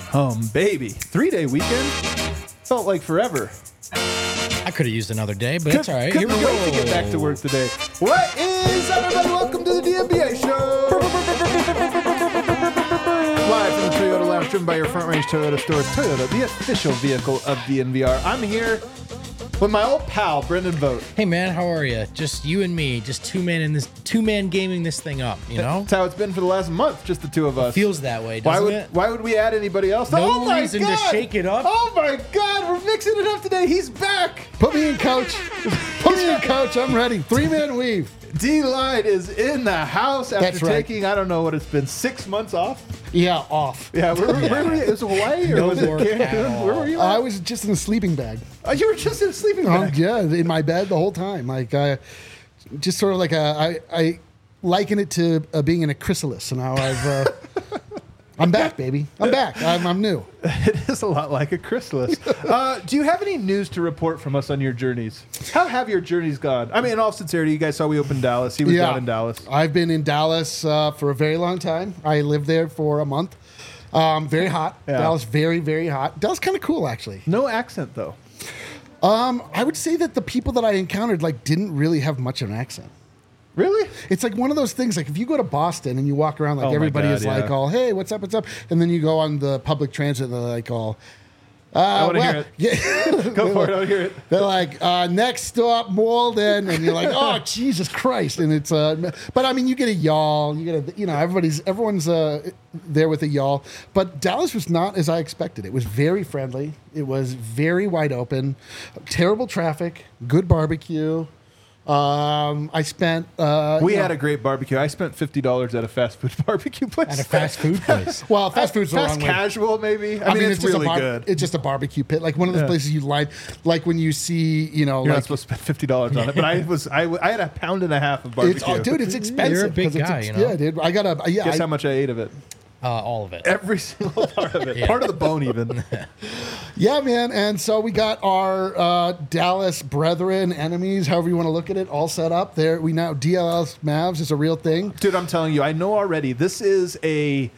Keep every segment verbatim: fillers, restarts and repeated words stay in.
Um, baby. Three-day weekend? Felt like forever. I could have used another day, but it's all right. Couldn't Here we wait go. to get back to work today. What is up, everybody? Welcome to the D M B A Show. Live from the Toyota Lounge, driven by your Front Range Toyota stores. Toyota, the official vehicle of D N V R. I'm here with my old pal, Brendan Vogt. Hey man, how are you? Just you and me, just two man in this, two man gaming this thing up. You know, That's how it's been for the last month, just the two of us. feels that way, Why doesn't would it? why would we add anybody else? No oh my reason to God. shake it up. Oh my God, we're mixing it up today. He's back. Put me in, coach. Put me in, coach. I'm ready. Three-man weave. D-Line is in the house after That's right. taking, I don't know what it's been, six months off? Yeah, off. Yeah, where, where, where were you? Was it Hawaii or No was it work at Cancun? all. Where were you I at? was just in a sleeping bag. Oh, you were just in a sleeping Um, bag. yeah, in my bed the whole time. Like, uh, just sort of like a, I, I liken it to uh, being in a chrysalis, and how I've, uh, I'm back, baby. I'm back. I'm, I'm new. It is a lot like a chrysalis. uh, do you have any news to report from us on your journeys? How have your journeys gone? I mean, in all sincerity, you guys saw we opened Dallas. He was down in Dallas. I've been in Dallas uh, for a very long time. I lived there for a month. Um, very hot. Yeah. Dallas, very, very hot. Dallas, kind of cool, actually. No accent, though. Um, I would say that the people that I encountered like didn't really have much of an accent. Really? It's like one of those things. Like if you go to Boston and you walk around, like Oh my everybody God, is like, yeah. all, "Hey, what's up? What's up?" And then you go on the public transit, and they're like, all, uh, I want to well, hear it. Yeah. Go for it. I want to hear it. They're like, uh, "Next stop, Malden," and you're like, "Oh, Jesus Christ!" And it's, uh, but I mean, you get a y'all. You get a, you know, everybody's everyone's uh, there with a y'all. But Dallas was not as I expected. It was very friendly. It was very wide open. Terrible traffic. Good barbecue. Um, I spent. Uh, We you know- had a great barbecue. I spent fifty dollars at a fast food barbecue place. At a fast food place. Well, fast food's the Fast wrong way. casual, maybe. I, mean, it's, just really a bar- good. It's just a barbecue pit, like one of those Yeah. places you line, like when you see, you know, You're not like supposed to spend fifty dollars on it, but I was I, w- I had a pound and a half of barbecue. it's, oh, dude, it's expensive. You're a big 'cause it's guy, ex- you know? Yeah, dude. I got a yeah. Guess I, how much I ate of it? Uh, all of it. Every single part of it. Yeah. Part of the bone, even. yeah, man. And so we got our uh, Dallas brethren, enemies, however you want to look at it, all set up there. We now D L S Mavs is a real thing. Dude, I'm telling you, I know already. This is a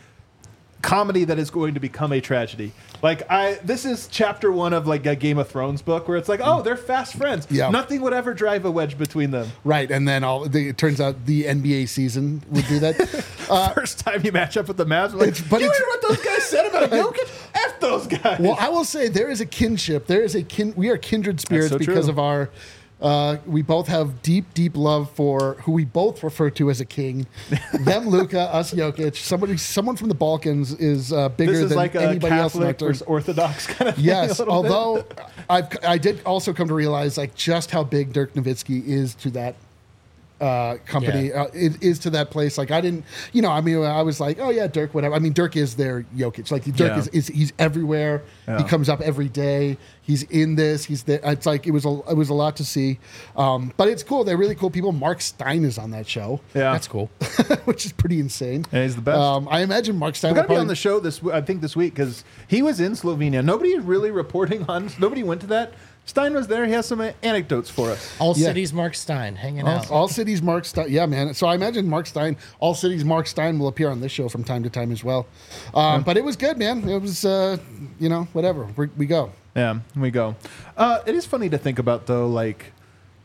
comedy that is going to become a tragedy. Like I, this is chapter one of like a Game of Thrones book where it's like, oh, they're fast friends. Yeah. Nothing would ever drive a wedge between them. Right, and then all the, it turns out the N B A season would do that. First time you match up with the Mavs, like, It's- but you it's- hear what those guys said about Jokic? F those guys. Well, I will say there is a kinship. There is a kin. We are kindred spirits so because true. of our. Uh, we both have deep, deep love for who we both refer to as a king. Them, Luka, us, Jokic. Somebody, someone from the Balkans is uh, bigger this is than like a anybody else in our Catholic turn. versus Orthodox kind of thing. Yes, a little bit. although I've I did also come to realize like just how big Dirk Nowitzki is to that uh, company. Yeah. Uh, it is to that place. Like I didn't, you know, I mean, I was like, oh yeah, Dirk, whatever. I mean, Dirk is their Jokic. Like Dirk Yeah. is, is he's everywhere. Yeah. He comes up every day. He's in this. He's there. It's like it was a it was a lot to see, um, but it's cool. They're really cool people. Mark Stein is on that show, yeah, That's cool. which is pretty insane. Yeah, he's the best. Um, I imagine Mark Stein We're will gonna be on probably- the show this. w- I think this week because he was in Slovenia. Nobody really reporting on. Nobody went to that. Stein was there. He has some uh, anecdotes for us. All Yeah. cities, Mark Stein, hanging All, out. all cities Mark Stein. Yeah, man. So I imagine Mark Stein, all cities Mark Stein will appear on this show from time to time as well. Um, but it was good, man. It was, uh, you know, whatever. we we go. Yeah, we go. Uh, it is funny to think about though. Like,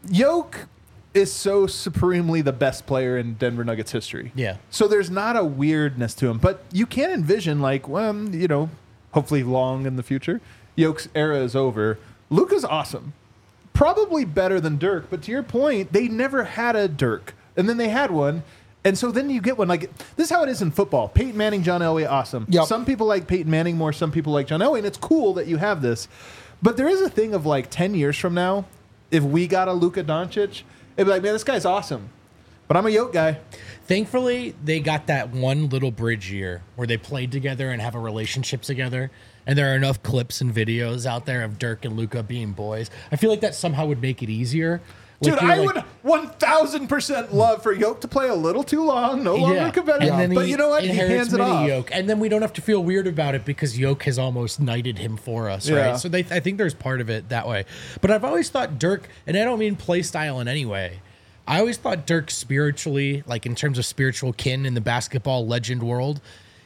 Yoke is so supremely the best player in Denver Nuggets history. Yeah. So there's not a weirdness to him, but you can envision like, well, you know, hopefully long in the future, Yoke's era is over. Luka's awesome. Probably better than Dirk, but to your point, they never had a Dirk. And then they had one. And so then you get one. Like, this is how it is in football. Peyton Manning, John Elway, awesome. Yep. Some people like Peyton Manning more, some people like John Elway, and it's cool that you have this. But there is a thing of like ten years from now, if we got a Luka Doncic, it'd be like, man, this guy's awesome. But I'm a Yoke guy. Thankfully, they got that one little bridge year where they played together and have a relationship together. And there are enough clips and videos out there of Dirk and Luka being boys. I feel like that somehow would make it easier. Like Dude, you're I like- would one thousand percent love for Yoke to play a little too long, no longer Yeah. competitive. And then But he you know what? He inherits hands it mini off. Yoke, and then we don't have to feel weird about it because Yoke has almost knighted him for us, Yeah. right? So they, I think there's part of it that way. But I've always thought Dirk, and I don't mean play style in any way. I always thought Dirk spiritually, like in terms of spiritual kin in the basketball legend world,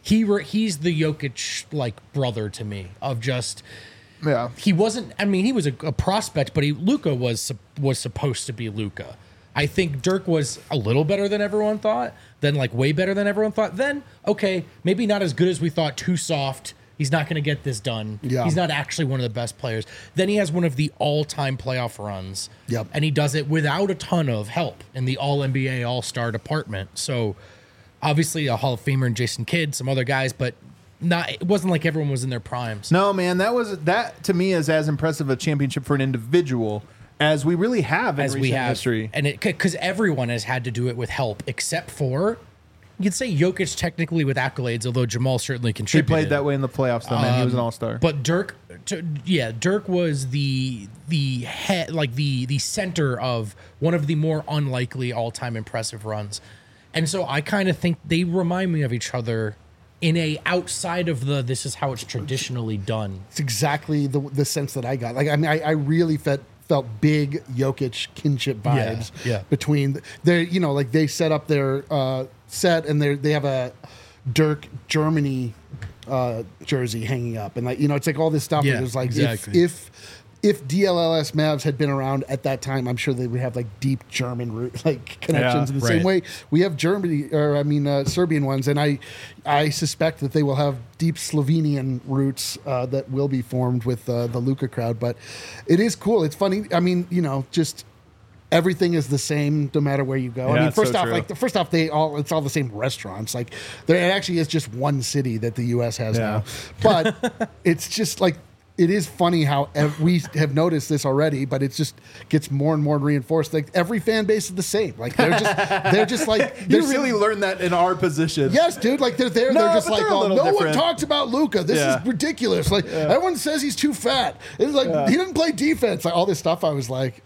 he re, he's the Jokic like brother to me of just Yeah. he wasn't. I mean, he was a, a prospect, but he Luka was sup- was supposed to be Luka. I think Dirk was a little better than everyone thought, then like way better than everyone thought. Then okay, maybe not as good as we thought. Too soft. He's not going to get this done. Yeah. He's not actually one of the best players. Then he has one of the all-time playoff runs. Yep. And he does it without a ton of help in the All N B A All-Star department. So obviously a Hall of Famer and Jason Kidd, some other guys, but not. It wasn't like everyone was in their primes. No, man, that was that to me is as impressive a championship for an individual as we really have in As recent we have, history. and it because everyone has had to do it with help, except for you could say Jokic technically with accolades, although Jamal certainly He contributed. played that way in the playoffs, though, man. He was an Um, all-star. But Dirk, t- yeah, Dirk was the the head, like the the center of one of the more unlikely all time impressive runs, and so I kind of think they remind me of each other in a outside of the this is how it's traditionally done. It's exactly the the sense that I got. Like I mean, I, I really felt felt big Jokic kinship Yeah, vibes yeah. between their, you know, like they set up their uh, set and they they have a Dirk Germany uh, jersey hanging up, and like you know, it's like all this stuff. Yeah, where there's like exactly. if if if D L L S Mavs had been around at that time, I'm sure they would have like deep German root like connections Yeah, in the right. same way we have Germany or I mean uh, Serbian ones, and I I suspect that they will have deep Slovenian roots uh, that will be formed with uh, the Luka crowd. But it is cool. It's funny. I mean, you know, just everything is the same no matter where you go. Yeah, I mean, it's first so off, true. like the first off, they all it's all the same restaurants. Like there it actually is just one city that the U S has Yeah. now, but it's just like. It is funny how ev- we have noticed this already, but it just gets more and more reinforced. Like every fan base is the same. Like they're just, they're just like you they're really sim- learned that in our position. Yes, dude. Like they're there. No, they're just but like, they're a oh, little no one different. talks about Luka. This Yeah. is ridiculous. Like everyone says he's too fat. It's like he didn't play defense. Like all this stuff. I was like,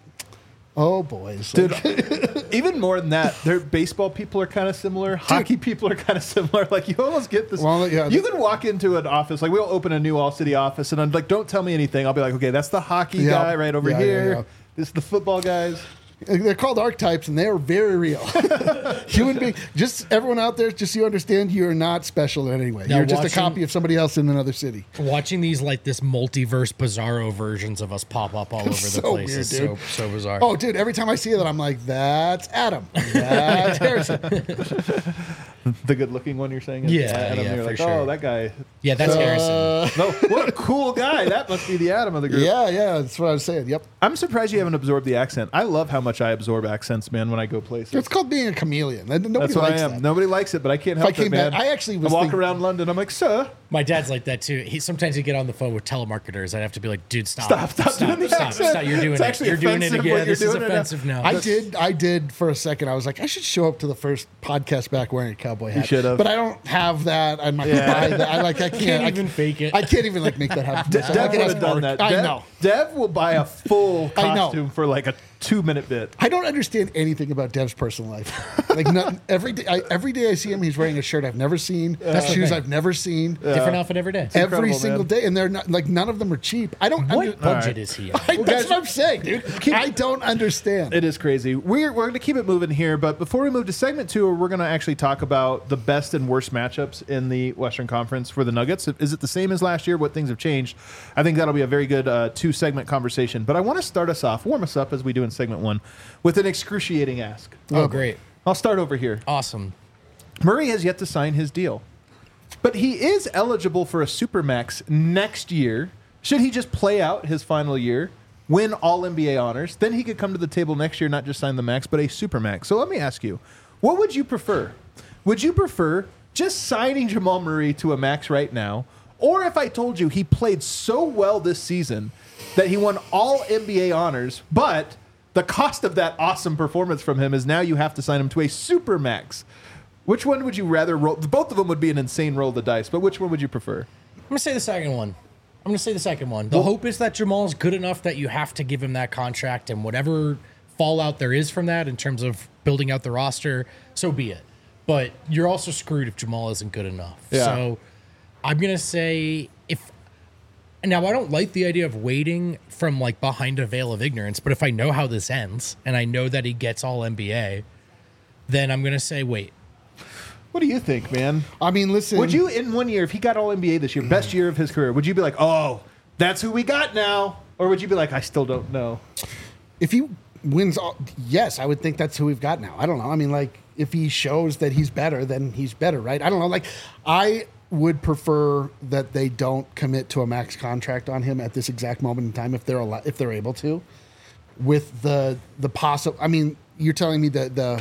oh boys, Dude, Like, even more than that, their baseball people are kind of similar. Hockey people are kind of similar. Like you almost get this. Well, yeah, you the- can walk into an office. Like we'll open a new all city office, and I'm like, don't tell me anything. I'll be like, okay, that's the hockey Yeah. guy right over Yeah, yeah, here. yeah. This is the football guys. they're called archetypes, and they are very real. Human being. Just everyone out there, just so you understand, you are not special in any way. Now You're just watching- a copy of somebody else in another city. Watching these like this multiverse bizarro versions of us pop up all over the so place weird, is dude. so so bizarre. Oh, dude! Every time I see that, I'm like, "That's Adam. That's Harrison." The good-looking one you're saying? is Yeah, Adam. yeah, You're for like, sure. oh, that guy. yeah, that's Harrison. No, what a cool guy. That must be the Adam of the group. Yeah, yeah, that's what I was saying. Yep, I'm surprised you haven't absorbed the accent. I love how much I absorb accents, man, when I go places. it's called being a chameleon. And nobody That's what I likes am. that. Nobody likes it, but I can't If I help it, came man. back- I actually was I walk thinking- around London. I'm like, sir, My dad's like that too. He sometimes he'd get on the phone with telemarketers. I'd have to be like, dude, stop, Stop, stop doing the stop, accent. stop. You're doing It's it. actually You're doing it offensive again. what you're This is doing right now. offensive now. I did. I did for a second. I was like, I should show up to the first podcast back wearing a cowboy hat. should have. but I don't have that. I'm not Yeah. buy that. I like. I can't, Can't I even fake it. I can't even like make that happen. De- So Dev I can would ask have done Mark. that. I Dev, know. Dev will buy a full I know. costume for like a two-minute bit. I don't understand anything about Dev's personal life. Like not, every day, I, every day I see him, he's wearing a shirt I've never seen, That's the shoes thing. I've never seen, Different outfit every day. every incredible, single man. day, and they're not like none of them are cheap. I don't. What under- budget right. is he? I, that's guys- what I'm saying, dude. I don't understand. It is crazy. We're, we're going to keep it moving here, but before we move to segment two, we're going to actually talk about the best and worst matchups in the Western Conference for the Nuggets. Is it the same as last year? What things have changed? I think that'll be a very good uh, two-segment conversation. But I want to start us off, warm us up as we do in segment one, with an excruciating ask. Oh, great. I'll start over here. Awesome. Murray has yet to sign his deal, but he is eligible for a Supermax next year. Should he just play out his final year, win all N B A honors, then he could come to the table next year, not just sign the max, but a Supermax. So let me ask you, what would you prefer? Would you prefer just signing Jamal Murray to a max right now, or if I told you he played so well this season that he won all N B A honors, but the cost of that awesome performance from him is now you have to sign him to a Supermax? Which one would you rather roll? Both of them would be an insane roll of the dice, but which one would you prefer? I'm gonna say the second one. I'm gonna say the second one. The hope is that Jamal's good enough that you have to give him that contract, and whatever fallout there is from that in terms of building out the roster, so be it. But you're also screwed if Jamal isn't good enough. Yeah. So I'm gonna say if now I don't like the idea of waiting from like behind a veil of ignorance, but if I know how this ends and I know that he gets all N B A, then I'm gonna say wait. What do you think, man? I mean, listen. Would you, in one year, if he got All N B A this year, best year of his career, would you be like, oh, that's who we got now? Or would you be like, I still don't know? If he wins, all, yes, I would think that's who we've got now. I don't know. I mean, like, if he shows that he's better, then he's better, right? I don't know. Like, I would prefer that they don't commit to a max contract on him at this exact moment in time if they're al- if they're able to. With the the possible, I mean, you're telling me that the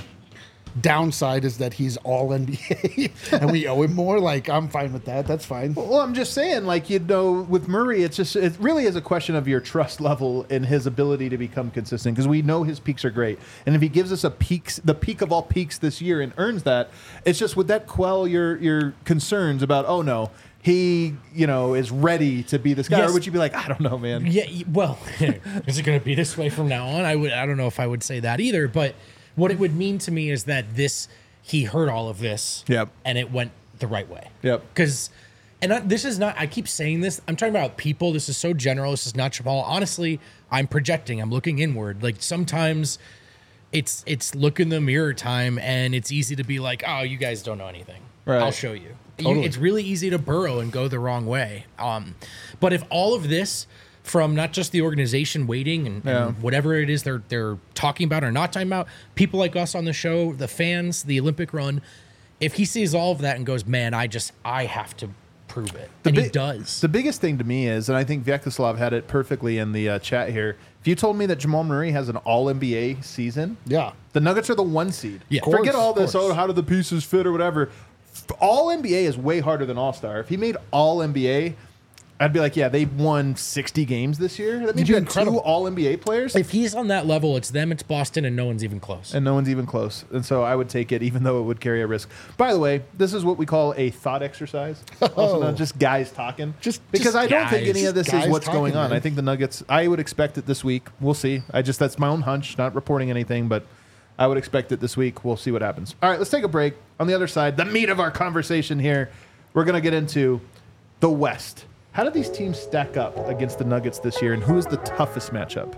downside is that he's all N B A and we owe him more. Like, I'm fine with that. That's fine. Well, I'm just saying, like, you know, with Murray, it's just, it really is a question of your trust level in his ability to become consistent, because we know his peaks are great. And if he gives us a peaks, the peak of all peaks this year and earns that, it's just, would that quell your, your concerns about, oh no, he, you know, is ready to be this guy? Yes. Or would you be like, I don't know, man? Yeah, y- well, is it going to be this way from now on? I would. I don't know if I would say that either. But what it would mean to me is that this, he heard all of this, Yep. and it went the right way. Yep. Because, and I, this is not. I keep saying this. I'm talking about people. This is so general. This is not Jamal. Honestly, I'm projecting. I'm looking inward. Like, sometimes it's it's look in the mirror time, and it's easy to be like, oh, you guys don't know anything. Right. I'll show you. Totally. You, it's really easy to burrow and go the wrong way. Um, but if all of this, from not just the organization waiting and, Yeah. and whatever it is they're they're talking about or not talking about, people like us on the show, the fans, the Olympic run, if he sees all of that and goes, man, I just I have to prove it, and he big- does. The biggest thing to me is, and I think Vyacheslav had it perfectly in the uh, chat here, if you told me that Jamal Murray has an All N B A season, Yeah. the Nuggets are the one seed. Yeah. Of Forget course, all of this, course. oh, how do the pieces fit or whatever. All N B A is way harder than All Star. If he made All N B A, I'd be like, yeah, they won sixty games this year. That means be you had incredible. two All N B A players, If he's on that level, it's them, it's Boston, and no one's even close. and no one's even close. And so I would take it, even though it would carry a risk. By the way, this is what we call a thought exercise. Also known just guys talking. Just- because just I don't think guys. any of this Guys is what's talking, going on. man. I think the Nuggets, I would expect it this week. We'll see. I just, that's my own hunch, not reporting anything, but I would expect it this week. We'll see what happens. All right, let's take a break. On the other side, the meat of our conversation here, we're going to get into the West. How do these teams stack up against the Nuggets this year, and who is the toughest matchup?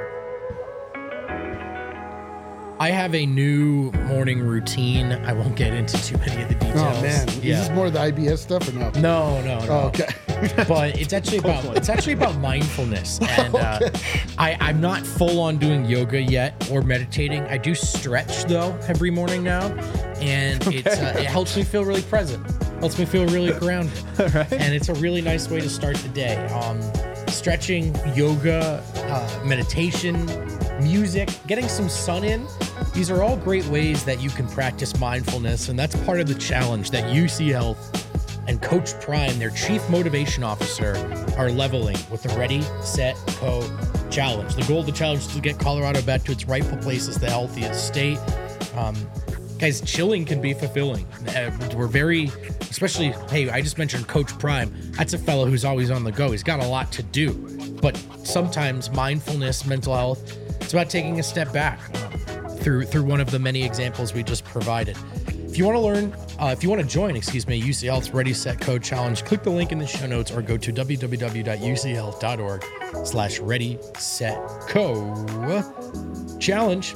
I have a new morning routine. I won't get into too many of the details. Oh man, Yeah. is this more of the I B S stuff or no? No, no, no. Oh, okay. But it's actually about it's actually about mindfulness, and uh, I, I'm not full on doing yoga yet or meditating. I do stretch though every morning now, and it's uh, it helps me feel really present. Helps me feel really grounded, and it's a really nice way to start the day. Um, stretching, yoga, uh, meditation, music, getting some sun in. These are all great ways that you can practice mindfulness, and that's part of the challenge that U C Health and Coach Prime, their chief motivation officer, are leveling with the Ready, Set, Go challenge. The goal of the challenge is to get Colorado back to its rightful place as the healthiest state. Um, guys, chilling can be fulfilling. Uh, we're very, especially, hey, I just mentioned Coach Prime. That's a fellow who's always on the go. He's got a lot to do. But sometimes mindfulness, mental health, it's about taking a step back uh, through through one of the many examples we just provided. If you want to learn, uh, if you want to join, excuse me, U C Health's Ready, Set, Code Challenge, click the link in the show notes or go to w w w dot u c health dot org slash ready, set, co challenge.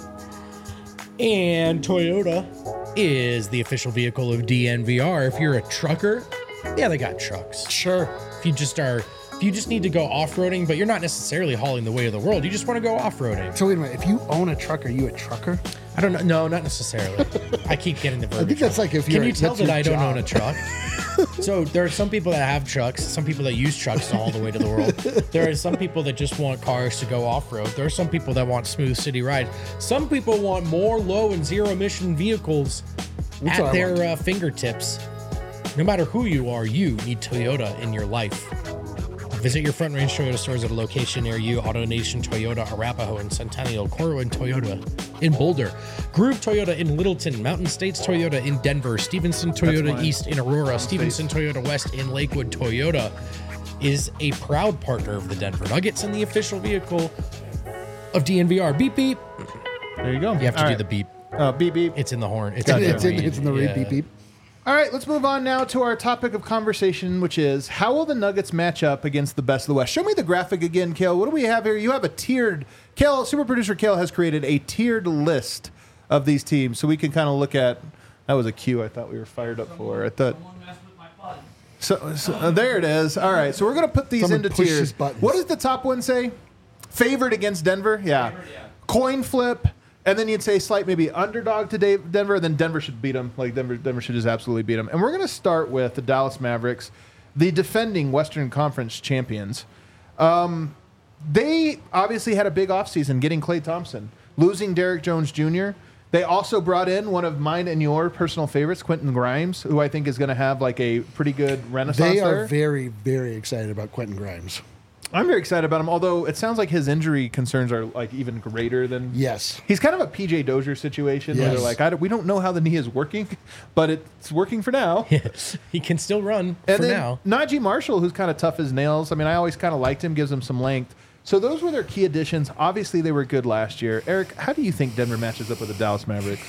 And Toyota is the official vehicle of D N V R. If you're a trucker, yeah, they got trucks. Sure. If you just are, if you just need to go off-roading, but you're not necessarily hauling the way of the world, you just want to go off-roading. So wait a minute. If you own a truck, are you a trucker? I don't know. No, not necessarily. I keep getting the verbiage. I think that's like if Can you're. you tell that's that your I don't job. own a truck? So there are some people that have trucks, some people that use trucks to haul the way to the world. There are some people that just want cars to go off-road. There are some people that want smooth city rides. Some people want more low and zero emission vehicles That's at what I their want. uh, fingertips. No matter who you are, you need Toyota in your life. Visit your Front Range Toyota stores at a location near you. AutoNation Toyota, Arapahoe and Centennial, Corwin Toyota in Boulder, Groove Toyota in Littleton, Mountain States Toyota in Denver, Stevenson Toyota mine. East in Aurora, Stevenson Toyota West in Lakewood. Toyota is a proud partner of the Denver Nuggets and the official vehicle of D N V R. Beep beep. There you go. You have to All do right. the beep. Uh, beep, beep. It's in the horn. It's, Gotcha. in the It's in, read. it's in the read. Yeah. Beep beep. All right, let's move on now to our topic of conversation, which is how will the Nuggets match up against the best of the West? Show me the graphic again, Kale. What do we have here? You have a tiered, Kale, super producer Kale has created a tiered list of these teams so we can kind of look at That was a cue I thought we were fired up for. I thought. So, so uh, there it is. All right, so we're gonna put these Someone into pushed tiers. his buttons. What does the top one say? Favored against Denver. Yeah. Favored, yeah. Coin flip, and then you'd say slight maybe underdog to Dave, Denver. Then Denver should beat them. Like Denver, Denver should just absolutely beat them. And we're gonna start with the Dallas Mavericks, the defending Western Conference champions. Um, they obviously had a big offseason getting Klay Thompson, losing Derrick Jones Junior They also brought in one of mine and your personal favorites, Quentin Grimes, who I think is going to have like a pretty good renaissance They are there. very, very excited about Quentin Grimes. I'm very excited about him, although it sounds like his injury concerns are like even greater than. Yes. He's kind of a P J Dozier situation where Yes. they're like, I don't, we don't know how the knee is working, but it's working for now. He can still run And for then now. Najee Marshall, who's kind of tough as nails. I mean, I always kind of liked him, gives him some length. So those were their key additions. Obviously, they were good last year. Eric, how do you think Denver matches up with the Dallas Mavericks?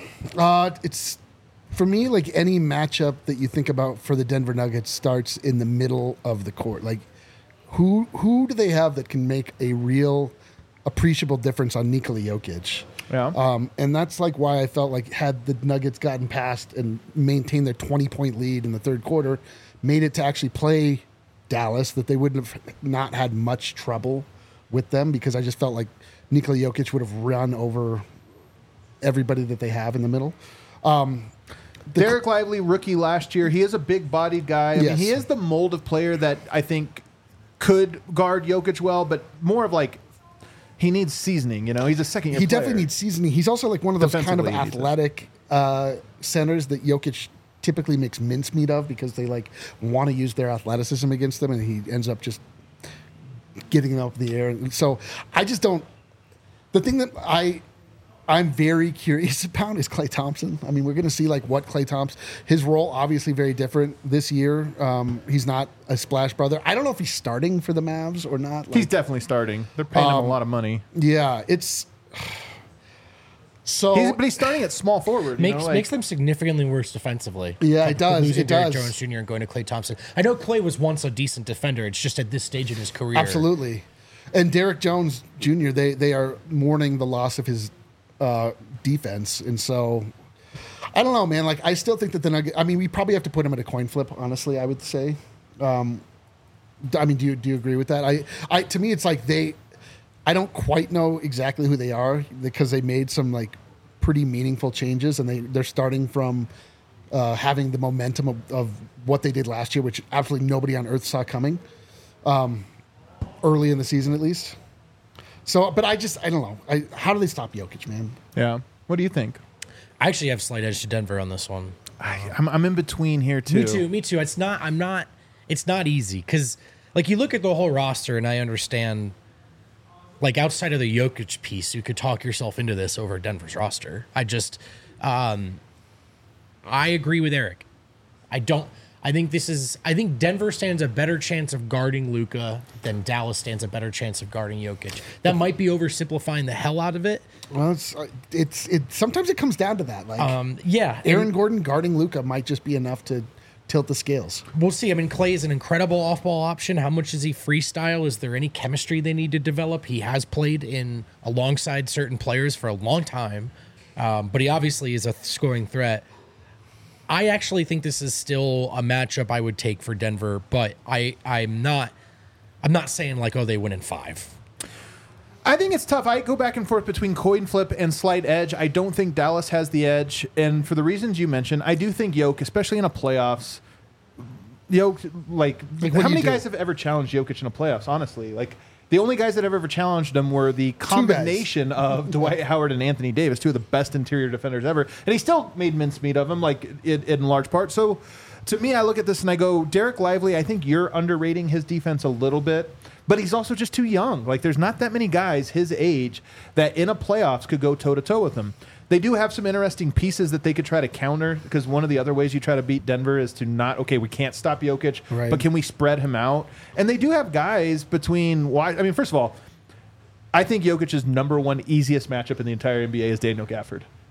Uh, it's for me like any matchup that you think about for the Denver Nuggets starts in the middle of the court. Like, who who do they have that can make a real appreciable difference on Nikola Jokic? Yeah. Um, and that's like why I felt like had the Nuggets gotten past and maintained their twenty point lead in the third quarter, made it to actually play Dallas, that they wouldn't have not had much trouble with them, because I just felt like Nikola Jokic would have run over everybody that they have in the middle. Um, the- Derek Lively, rookie last year. He is a big-bodied guy. I Yes. mean, he is the mold of player that I think could guard Jokic well, but more of like he needs seasoning. You know, he's a second-year he player. definitely needs seasoning. He's also like one of those kind of Defensively, he needs it. athletic uh, centers that Jokic typically makes mincemeat of, because they like want to use their athleticism against them, and he ends up just getting them up in the air. And so I just don't. The thing that I I'm very curious about is Klay Thompson. I mean, we're going to see like what Klay Thompson, his role obviously very different this year. Um, he's not a splash brother. I don't know if he's starting for the Mavs or not. Like, He's definitely starting. They're paying him Um, a lot of money. yeah, it's so. He's, but he's starting at small forward. You Makes know, like, makes them significantly worse defensively. Yeah, it Like, does, Losing it Derrick does. Jones Junior and going to Klay Thompson. I know Klay was once a decent defender. It's just at this stage in his career. Absolutely. And Derrick Jones Junior, they they are mourning the loss of his uh, defense. And so, I don't know, man. Like, I still think that the Nuggets, I mean, we probably have to put him at a coin flip, honestly, I would say. Um, I mean, do you, do you agree with that? I, I To me, it's like they, I don't quite know exactly who they are, because they made some, like, pretty meaningful changes, and they, they're starting from uh, having the momentum of, of what they did last year, which absolutely nobody on earth saw coming. Um, early in the season, at least. So, but I just, I don't know. I, how do they stop Jokic, man? yeah. What do you think? I actually have slight edge to Denver on this one. I, I'm, I'm in between here too. Me too. Me too. It's not. I'm not. It's not easy because, like, you look at the whole roster, and I understand. Like, outside of the Jokic piece, you could talk yourself into this over Denver's roster. I just, um, I agree with Eric. I don't. I think this is. I think Denver stands a better chance of guarding Luka than Dallas stands a better chance of guarding Jokic. That might be oversimplifying the hell out of it. Well, it's, uh, it's, it. Sometimes it comes down to that. Like, Um, yeah, Aaron and Gordon guarding Luka might just be enough to tilt the scales. we'll see. I mean, Klay is an incredible off-ball option. How much is he freestyle? Is there any chemistry they need to develop? He has played in alongside certain players for a long time, um, but he obviously is a scoring threat. I actually think this is still a matchup I would take for Denver, but I I'm not I'm not saying like, oh, they win in five. I think it's tough. I go back and forth between coin flip and slight edge. I don't think Dallas has the edge, and for the reasons you mentioned, I do think Jokic, especially in a playoffs, Jokic, like, Like, what how do you many do? guys have ever challenged Jokic in a playoffs? Honestly, like the only guys that have ever challenged him were the combination of Dwight Howard and Anthony Davis, two of the best interior defenders ever, and he still made mincemeat of him, like in, in large part. So, to me, I look at this and I go, Derek Lively. I think you're underrating his defense a little bit. But he's also just too young. Like, there's not that many guys his age that in a playoffs could go toe-to-toe with him. They do have some interesting pieces that they could try to counter, because one of the other ways you try to beat Denver is to not, okay, we can't stop Jokic, Right. but can we spread him out? And they do have guys between, why? I mean, first of all, I think Jokic's number one easiest matchup in the entire N B A is Daniel Gafford.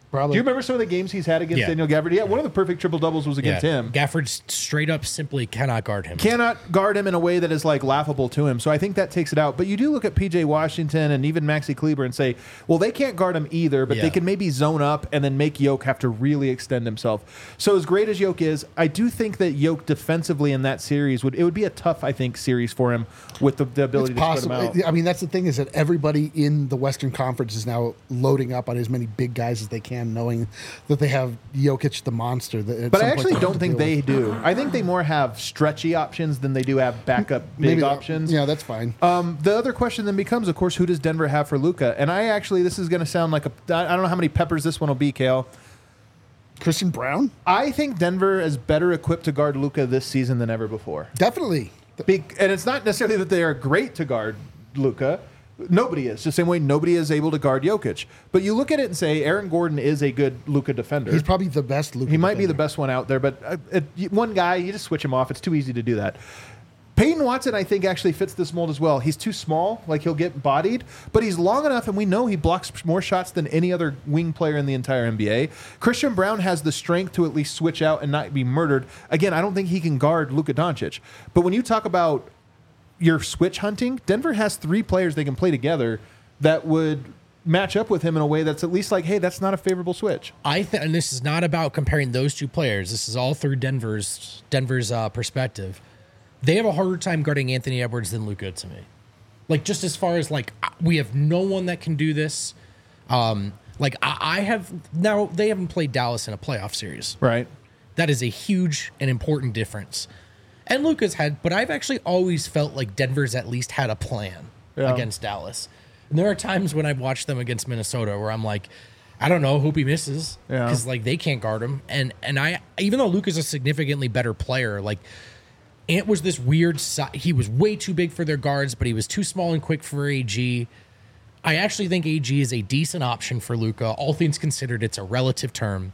Probably. Do you remember some of the games he's had against Yeah. Daniel Gafford? Yeah, one of the perfect triple doubles was against Yeah. him. Gafford straight up simply cannot guard him. Cannot guard him in a way that is like laughable to him. So I think that takes it out. But you do look at P J Washington and even Maxi Kleber and say, well, they can't guard him either, but Yeah. they can maybe zone up and then make Yoke have to really extend himself. So as great as Yoke is, I do think that Yoke defensively in that series would it would be a tough, I think, series for him with the, the ability It's to possible. spread him out. I mean, that's the thing is that everybody in the Western Conference is now loading up on as many big guys as they can, knowing that they have Jokic the monster. That at But some I point actually they'll have don't to think deal they with. do. I think they more have stretchy options than they do have backup big Maybe that- options. Yeah, that's fine. Um, the other question then becomes, of course, who does Denver have for Luka? And I actually, this is going to sound like a, I don't know how many peppers this one will be, Kale. Christian Brown, I think Denver is better equipped to guard Luka this season than ever before. definitely. Be- and it's not necessarily that they are great to guard Luka. Nobody is. The same way nobody is able to guard Jokic. But you look at it and say Aaron Gordon is a good Luka defender. He's probably the best Luka. He might be the best one out there, but uh, it, one guy, you just switch him off. It's too easy to do that. Peyton Watson, I think, actually fits this mold as well. He's too small, like he'll get bodied, but he's long enough, and we know he blocks more shots than any other wing player in the entire N B A. Christian Brown has the strength to at least switch out and not be murdered. Again, I don't think he can guard Luka Doncic. But when you talk about your switch hunting, Denver has three players they can play together that would match up with him in a way that's at least like, hey, that's not a favorable switch. I think, and this is not about comparing those two players. This is all through Denver's Denver's uh, perspective. They have a harder time guarding Anthony Edwards than Luka to me. Like, just as far as like, we have no one that can do this. Um, like I, I have now, they haven't played Dallas in a playoff series. Right. That is a huge and important difference. And Luka's had, but I've actually always felt like Denver's at least had a plan Yeah. against Dallas. And there are times when I've watched them against Minnesota where I'm like, I don't know, hope he misses Yeah. because like they can't guard him. And and I, even though Luka's a significantly better player, like Ant was this weird. Si- he was way too big for their guards, but he was too small and quick for A G. I actually think A G is a decent option for Luka. All things considered, it's a relative term,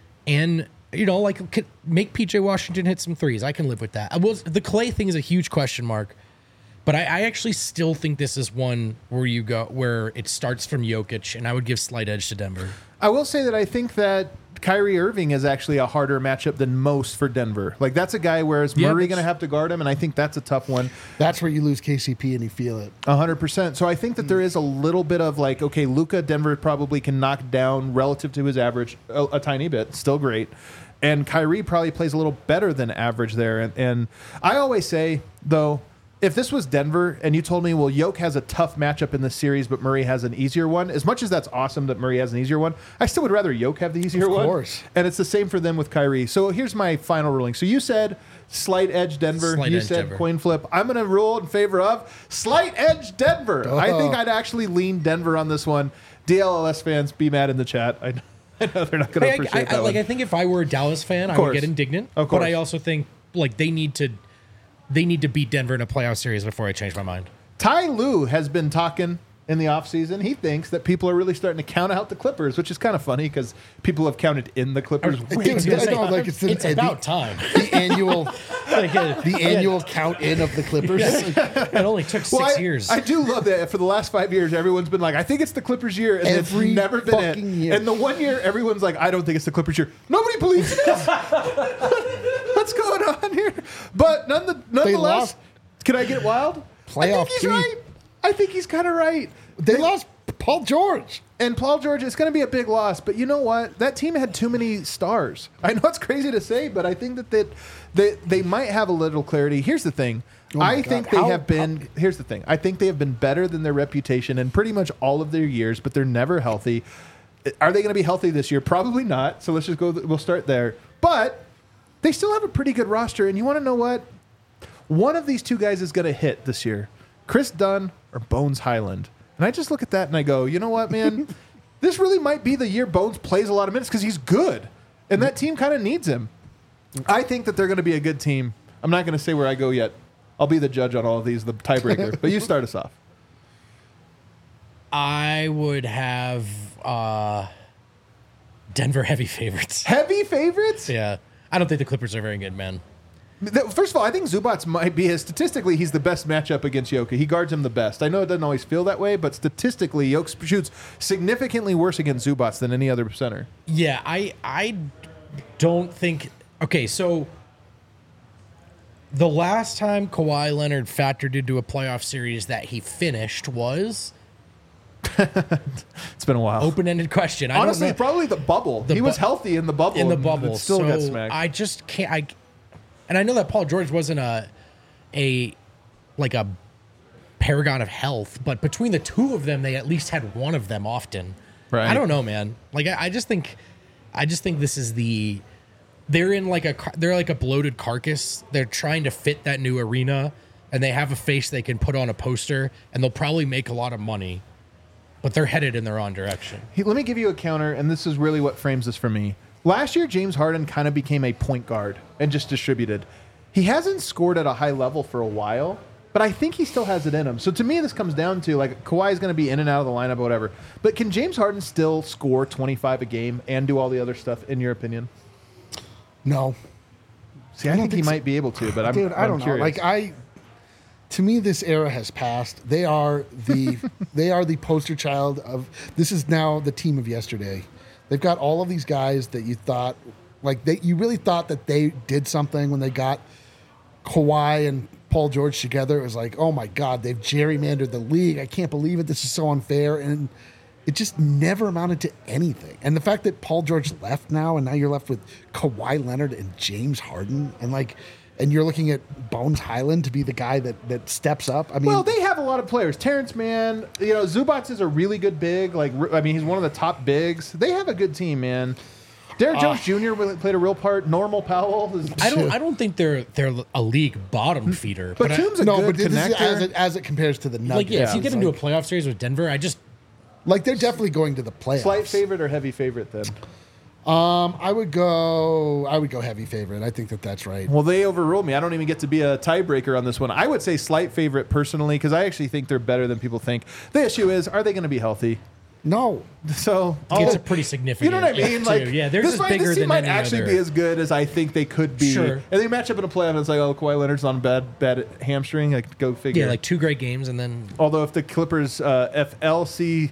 and you know, like could make P J Washington hit some threes. I can live with that. I was the Clay thing is a huge question mark, but I, I actually still think this is one where you go where it starts from Jokic, and I would give slight edge to Denver. I will say that I think that Kyrie Irving is actually a harder matchup than most for Denver. Like, that's a guy where is Yeah, Murray that's- going to have to guard him, and I think that's a tough one. That's where you lose K C P and you feel it. one hundred percent. So I think that there is a little bit of like, okay, Luka, Denver probably can knock down relative to his average a, a tiny bit, still great. And Kyrie probably plays a little better than average there. And, and I always say, though, if this was Denver and you told me, well, Yoke has a tough matchup in this series, but Murray has an easier one, as much as that's awesome that Murray has an easier one, I still would rather Yoke have the easier Of one. course. And it's the same for them with Kyrie. So here's my final ruling. So you said slight edge Denver. Slight you edge said Denver. coin flip. I'm going to rule in favor of slight edge Denver. Duh. I think I'd actually lean Denver on this one. D L L S fans, be mad in the chat. I know, I know they're not going to I, appreciate I, I, that like one. I think if I were a Dallas fan, I course. would get indignant. Of But I course. also think like they need to they need to beat Denver in a playoff series before I change my mind. Ty Lue has been talking in the offseason. He thinks that people are really starting to count out the Clippers, which is kind of funny because people have counted in the Clippers. way Dude, too I know, much. like it's, the, It's about time. the annual Like, uh, the annual count in of the Clippers. it only took six Well, I, years. I do love that for the last five years, everyone's been like, I think it's the Clippers year, and Every it's never been it. fucking year. And the one year, everyone's like, I don't think it's the Clippers year. Nobody believes it is. What's going on here? But none the, nonetheless, lost. can I get wild? I Playoff think he's team. right. I think he's kind of right. They lost Paul George. And Paul George, it's going to be a big loss. But you know what? That team had too many stars. I know it's crazy to say, but I think that they, they, they might have a little clarity. Here's the thing. Oh my I God. think they How- have been, here's the thing. I think they have been better than their reputation in pretty much all of their years, but they're never healthy. Are they going to be healthy this year? Probably not. So let's just go, we'll start there. But they still have a pretty good roster. And you want to know what? One of these two guys is going to hit this year. Chris Dunn or Bones Highland. And I just look at that and I go, you know what, man? This really might be the year Bones plays a lot of minutes because he's good. And that team kind of needs him. I think that they're going to be a good team. I'm not going to say where I go yet. I'll be the judge on all of these, the tiebreaker. But you start us off. I would have uh, Denver heavy favorites. Heavy favorites? Yeah, I don't think the Clippers are very good, man. Th- First of all, I think Zubats might be his statistically. He's the best matchup against Yoka. He guards him the best. I know it doesn't always feel that way, but statistically, Yoke shoots significantly worse against Zubats than any other center. Yeah, I I don't think. Okay, so the last time Kawhi Leonard factored into a playoff series that he finished was It's been a while. open-ended question. I Honestly, don't know. probably the bubble. The he was bu- healthy in the bubble. in the and bubble. it Still so got smacked. I just can't. I and I know that Paul George wasn't a a like a paragon of health, but between the two of them, they at least had one of them often. Right. I don't know, man. Like I, I just think, I just think this is the. They're in like a car- they're like a bloated carcass. They're trying to fit that new arena, and they have a face they can put on a poster, and they'll probably make a lot of money. But they're headed in the wrong direction. He- let me give you a counter, and this is really what frames this for me. Last year, James Harden kind of became a point guard and just distributed. He hasn't scored at a high level for a while, but I think he still has it in him. So to me, this comes down to like Kawhi is going to be in and out of the lineup or whatever. But can James Harden still score twenty-five a game and do all the other stuff, in your opinion? No. See, I, I don't think, think he so. might be able to, but I'm, Dude, I I'm don't know. curious. Like I, to me, this era has passed. They are the they are the poster child of. This is now the team of yesterday. They've got all of these guys that you thought, like they, you really thought that they did something when they got Kawhi and Paul George together. It was like, oh my God, they've gerrymandered the league. I can't believe it. This is so unfair, and it just never amounted to anything. And the fact that Paul George left now, and now you're left with Kawhi Leonard and James Harden, and like, and you're looking at Bones Highland to be the guy that that steps up. I mean, Well, they have a lot of players. Terrence Mann, you know, Zubats is a really good big. Like, I mean, he's one of the top bigs. They have a good team, man. Derrick Jones Junior really played a real part. Normal Powell. Is, I don't. I don't think they're they're a league bottom feeder. but I- Toombs a no, good but this is connector. as it, as it compares to the Nuggets. like yeah, if you It's get into like, a playoff series with Denver, I just like they're definitely going to the playoffs. Slight favorite or heavy favorite then? Um, I would go. I would go heavy favorite. I think that that's right. Well, they overruled me. I don't even get to be a tiebreaker on this one. I would say slight favorite personally because I actually think they're better than people think. The issue is, are they going to be healthy? No, So it's I'll- a pretty significant. You know what I mean? too. Like, yeah, they're this just might, bigger this team than might any actually other. be as good as I think they could be. Sure. And they match up in a playoff, and it's like, oh, Kawhi Leonard's on a bad, bad hamstring. Like, go figure. Yeah, like two great games and then Although if the Clippers uh, F L C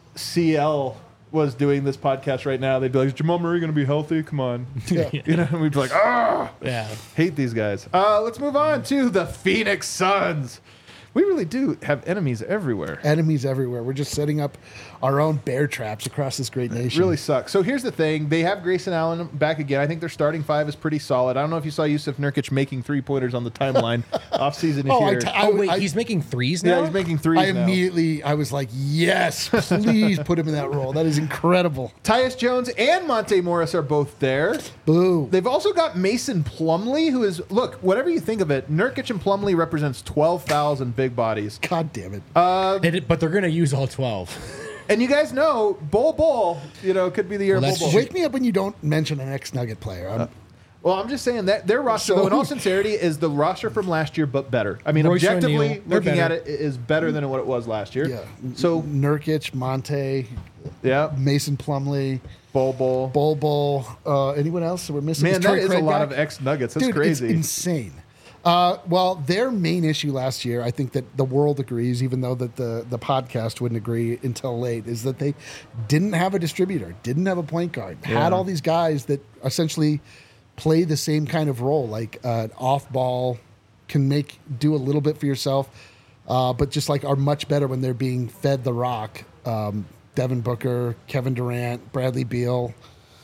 C L was doing this podcast right now, they'd be like, is Jamal Murray going to be healthy? Come on. Yeah. You know, and we'd be like, ah, yeah. hate these guys. Uh, let's move on to the Phoenix Suns. We really do have enemies everywhere. enemies everywhere. We're just setting up our own bear traps across this great nation. Really sucks. So here's the thing. They have Grayson Allen back again. I think their starting five is pretty solid. I don't know if you saw Yusuf Nurkic making three-pointers on the timeline. Offseason is Oh, I here. t- I- Oh wait, I- he's making threes now. yeah, he's making threes I now. immediately, I was like, yes, please put him in that role. That is incredible. Tyus Jones and Monte Morris are both there. Boo. They've also got Mason Plumlee, who is, look, whatever you think of it, Nurkic and Plumlee represents twelve thousand big bodies. God damn it. It- but they're gonna use all twelve. And you guys know, Bol Bol, you know, could be the year Well, of that's Bol Bol. Wake me up when you don't mention an ex-Nugget player. I'm, Well, I'm just saying that their roster, So- though, in all sincerity, is the roster from last year, but better. I mean, Royce objectively, O'Neal, they're looking at better. it, it is better than what it was last year. yeah. So, Nurkic, Monte, yeah, Mason Plumlee, Bol Bol. Bol Bol. Uh, anyone else that we're missing? Man, that Torrey is a Craig lot back? of ex-Nuggets. That's Dude, crazy. It's insane. Uh, well, their main issue last year, I think that the world agrees, even though that the, the podcast wouldn't agree until late, is that they didn't have a distributor, didn't have a point guard, had all these guys that essentially play the same kind of role, like uh, an off ball, can make do a little bit for yourself, uh, but just like are much better when they're being fed the rock. Um, Devin Booker, Kevin Durant, Bradley Beal.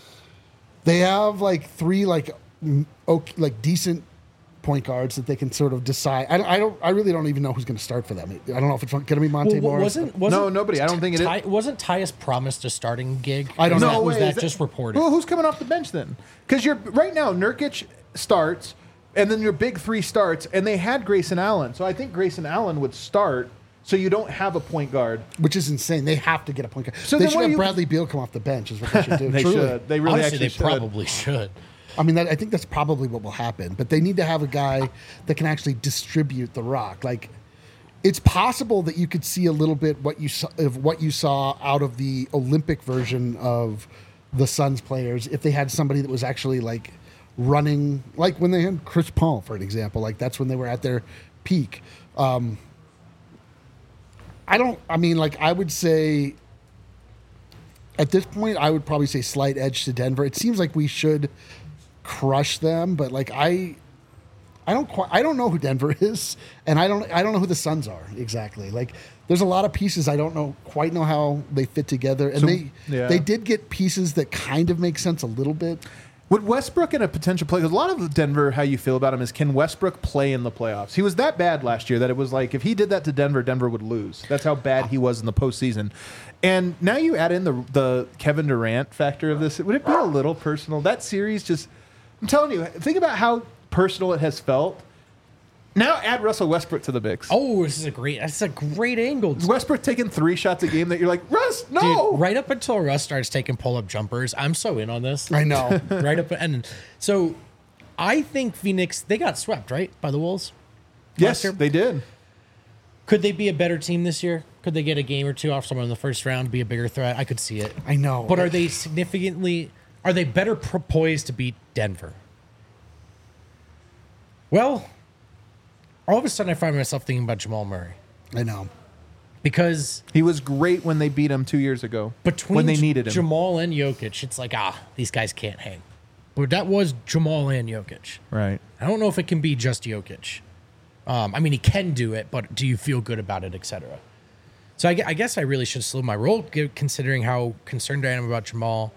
They have like three like m- okay, like decent point guards that they can sort of decide. I don't. I, don't, I really don't even know who's going to start for them. I don't know if it's going to be Monte Well, Morris. wasn't, wasn't No, nobody. I don't think it is. Ty, wasn't Tyus promised a starting gig? I don't was know. That, No was way. that Is that- just reported? Who, who's coming off the bench then? Because you're right now, Nurkic starts, and then your big three starts, and they had Grayson Allen. So I think Grayson Allen would start, so you don't have a point guard. Which is insane. They have to get a point guard. So they then should what have do you- Bradley Beal come off the bench. Is what they should do. They Truly. should. They really Honestly, actually they should. probably should. I mean, that, I think that's probably what will happen. But they need to have a guy that can actually distribute the rock. Like, it's possible that you could see a little bit what you saw, of what you saw out of the Olympic version of the Suns players if they had somebody that was actually like running, like when they had Chris Paul, for an example. Like that's when they were at their peak. Um, I don't, I mean, like I would say at this point, I would probably say slight edge to Denver. It seems like we should crush them, but like I, I don't quite, I don't know who Denver is, and I don't, I don't know who the Suns are exactly. Like, there's a lot of pieces I don't know quite know how they fit together, and So, they, yeah. they did get pieces that kind of make sense a little bit. Would Westbrook in a potential play? Because a lot of Denver, how you feel about him is, can Westbrook play in the playoffs? He was that bad last year that it was like if he did that to Denver, Denver would lose. That's how bad he was in the postseason. And now you add in the the Kevin Durant factor of this. Would it be a little personal? That series just, I'm telling you, think about how personal it has felt. Now add Russell Westbrook to the mix. Oh, this is a great. That's a great angle. Westbrook taking three shots a game that you're like, Russ, no. Dude, right up until Russ starts taking pull-up jumpers, I'm so in on this. I know. Right up and so, I think Phoenix, they got swept right by the Wolves. Yes, last year. they did. Could they be a better team this year? Could they get a game or two off someone in the first round, be a bigger threat? I could see it. I know. But are they significantly? Are they better poised to beat Denver? Well, all of a sudden I find myself thinking about Jamal Murray I know. because He was great when they beat him two years ago. between when they J- needed him. Jamal and Jokic, it's like, ah, these guys can't hang. But that was Jamal and Jokic. Right. I don't know if it can be just Jokic. Um, I mean, he can do it, but do you feel good about it, et cetera? So I, gue- I guess I really should slow my roll, gi- considering how concerned I am about Jamal.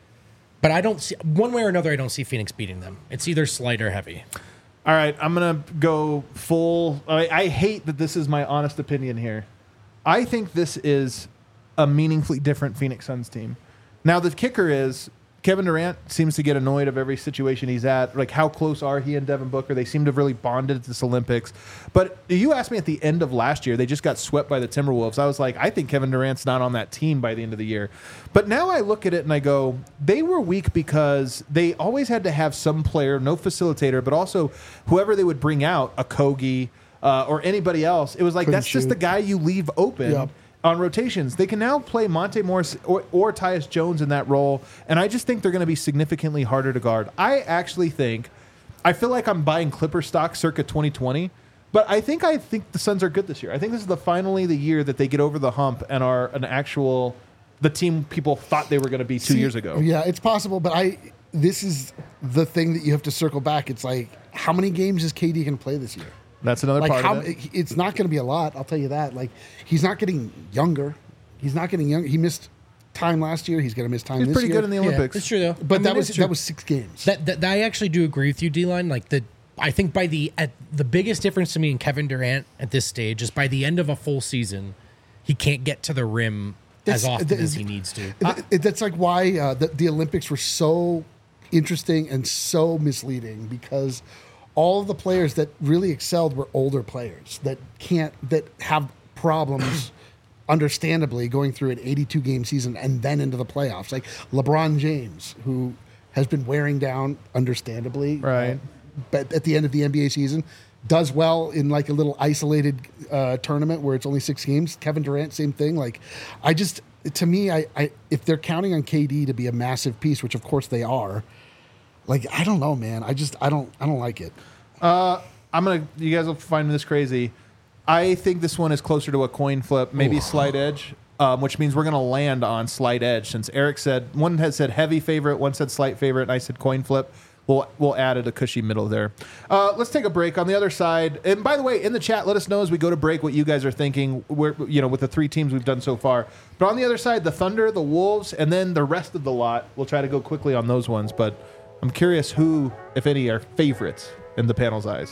But I don't see, one way or another, I don't see Phoenix beating them. It's either slight or heavy. All right, I'm going to go full. I, I hate that this is my honest opinion here. I think this is a meaningfully different Phoenix Suns team. Now, the kicker is Kevin Durant seems to get annoyed of every situation he's at. Like, how close are he and Devin Booker? They seem to have really bonded at this Olympics. But you asked me at the end of last year, they just got swept by the Timberwolves. I was like, I think Kevin Durant's not on that team by the end of the year. But now I look at it and I go, they were weak because they always had to have some player, no facilitator, but also whoever they would bring out, a Kogi uh, or anybody else. It was like, Couldn't that's just shoot. the guy you leave open. Yep. On rotations. They can now play Monte Morris or, or Tyus Jones in that role, and I just think they're going to be significantly harder to guard. I actually think, I feel like I'm buying Clipper stock circa twenty twenty, but I think I think the Suns are good this year. I think this is the finally the year that they get over the hump and are an actual, the team people thought they were going to be two See, years ago. Yeah, it's possible, but I. This is the thing that you have to circle back. It's like, how many games is K D going to play this year? That's another Like part how of it. it's not going to be a lot. I'll tell you that. Like he's not getting younger. He's not getting younger. He missed time last year. He's going to miss time He's this pretty year. good in the Yeah, Olympics. it's true though. But I mean, that was it's true. that was six games. That, that I actually do agree with you, D-Line. Like the, I think by the at the biggest difference to me in Kevin Durant at this stage is by the end of a full season, he can't get to the rim as That's- often that- as he needs to. It- it- that's like why uh, the, the Olympics were so interesting and so misleading because all of the players that really excelled were older players that can't that have problems understandably going through an eighty-two game season and then into the playoffs, like LeBron James, who has been wearing down understandably, Right. uh, but at the end of the N B A season does well in like a little isolated uh, tournament where it's only six games. Kevin Durant, same thing. Like, I just, to me, I, I if they're counting on K D to be a massive piece, which of course they are, like, I don't know, man. I just, I don't, I don't like it. Uh, I'm gonna. You guys will find this crazy. I think this one is closer to a coin flip, maybe slight edge, um, which means we're gonna land on slight edge. Since Eric said one had said heavy favorite, one said slight favorite, and I said coin flip. We'll we'll add a cushy middle there. Uh, let's take a break on the other side. And by the way, in the chat, let us know as we go to break what you guys are thinking. We're, you know, with the three teams we've done so far. But on the other side, the Thunder, the Wolves, and then the rest of the lot. We'll try to go quickly on those ones. But I'm curious who, if any, are favorites in the panel's eyes.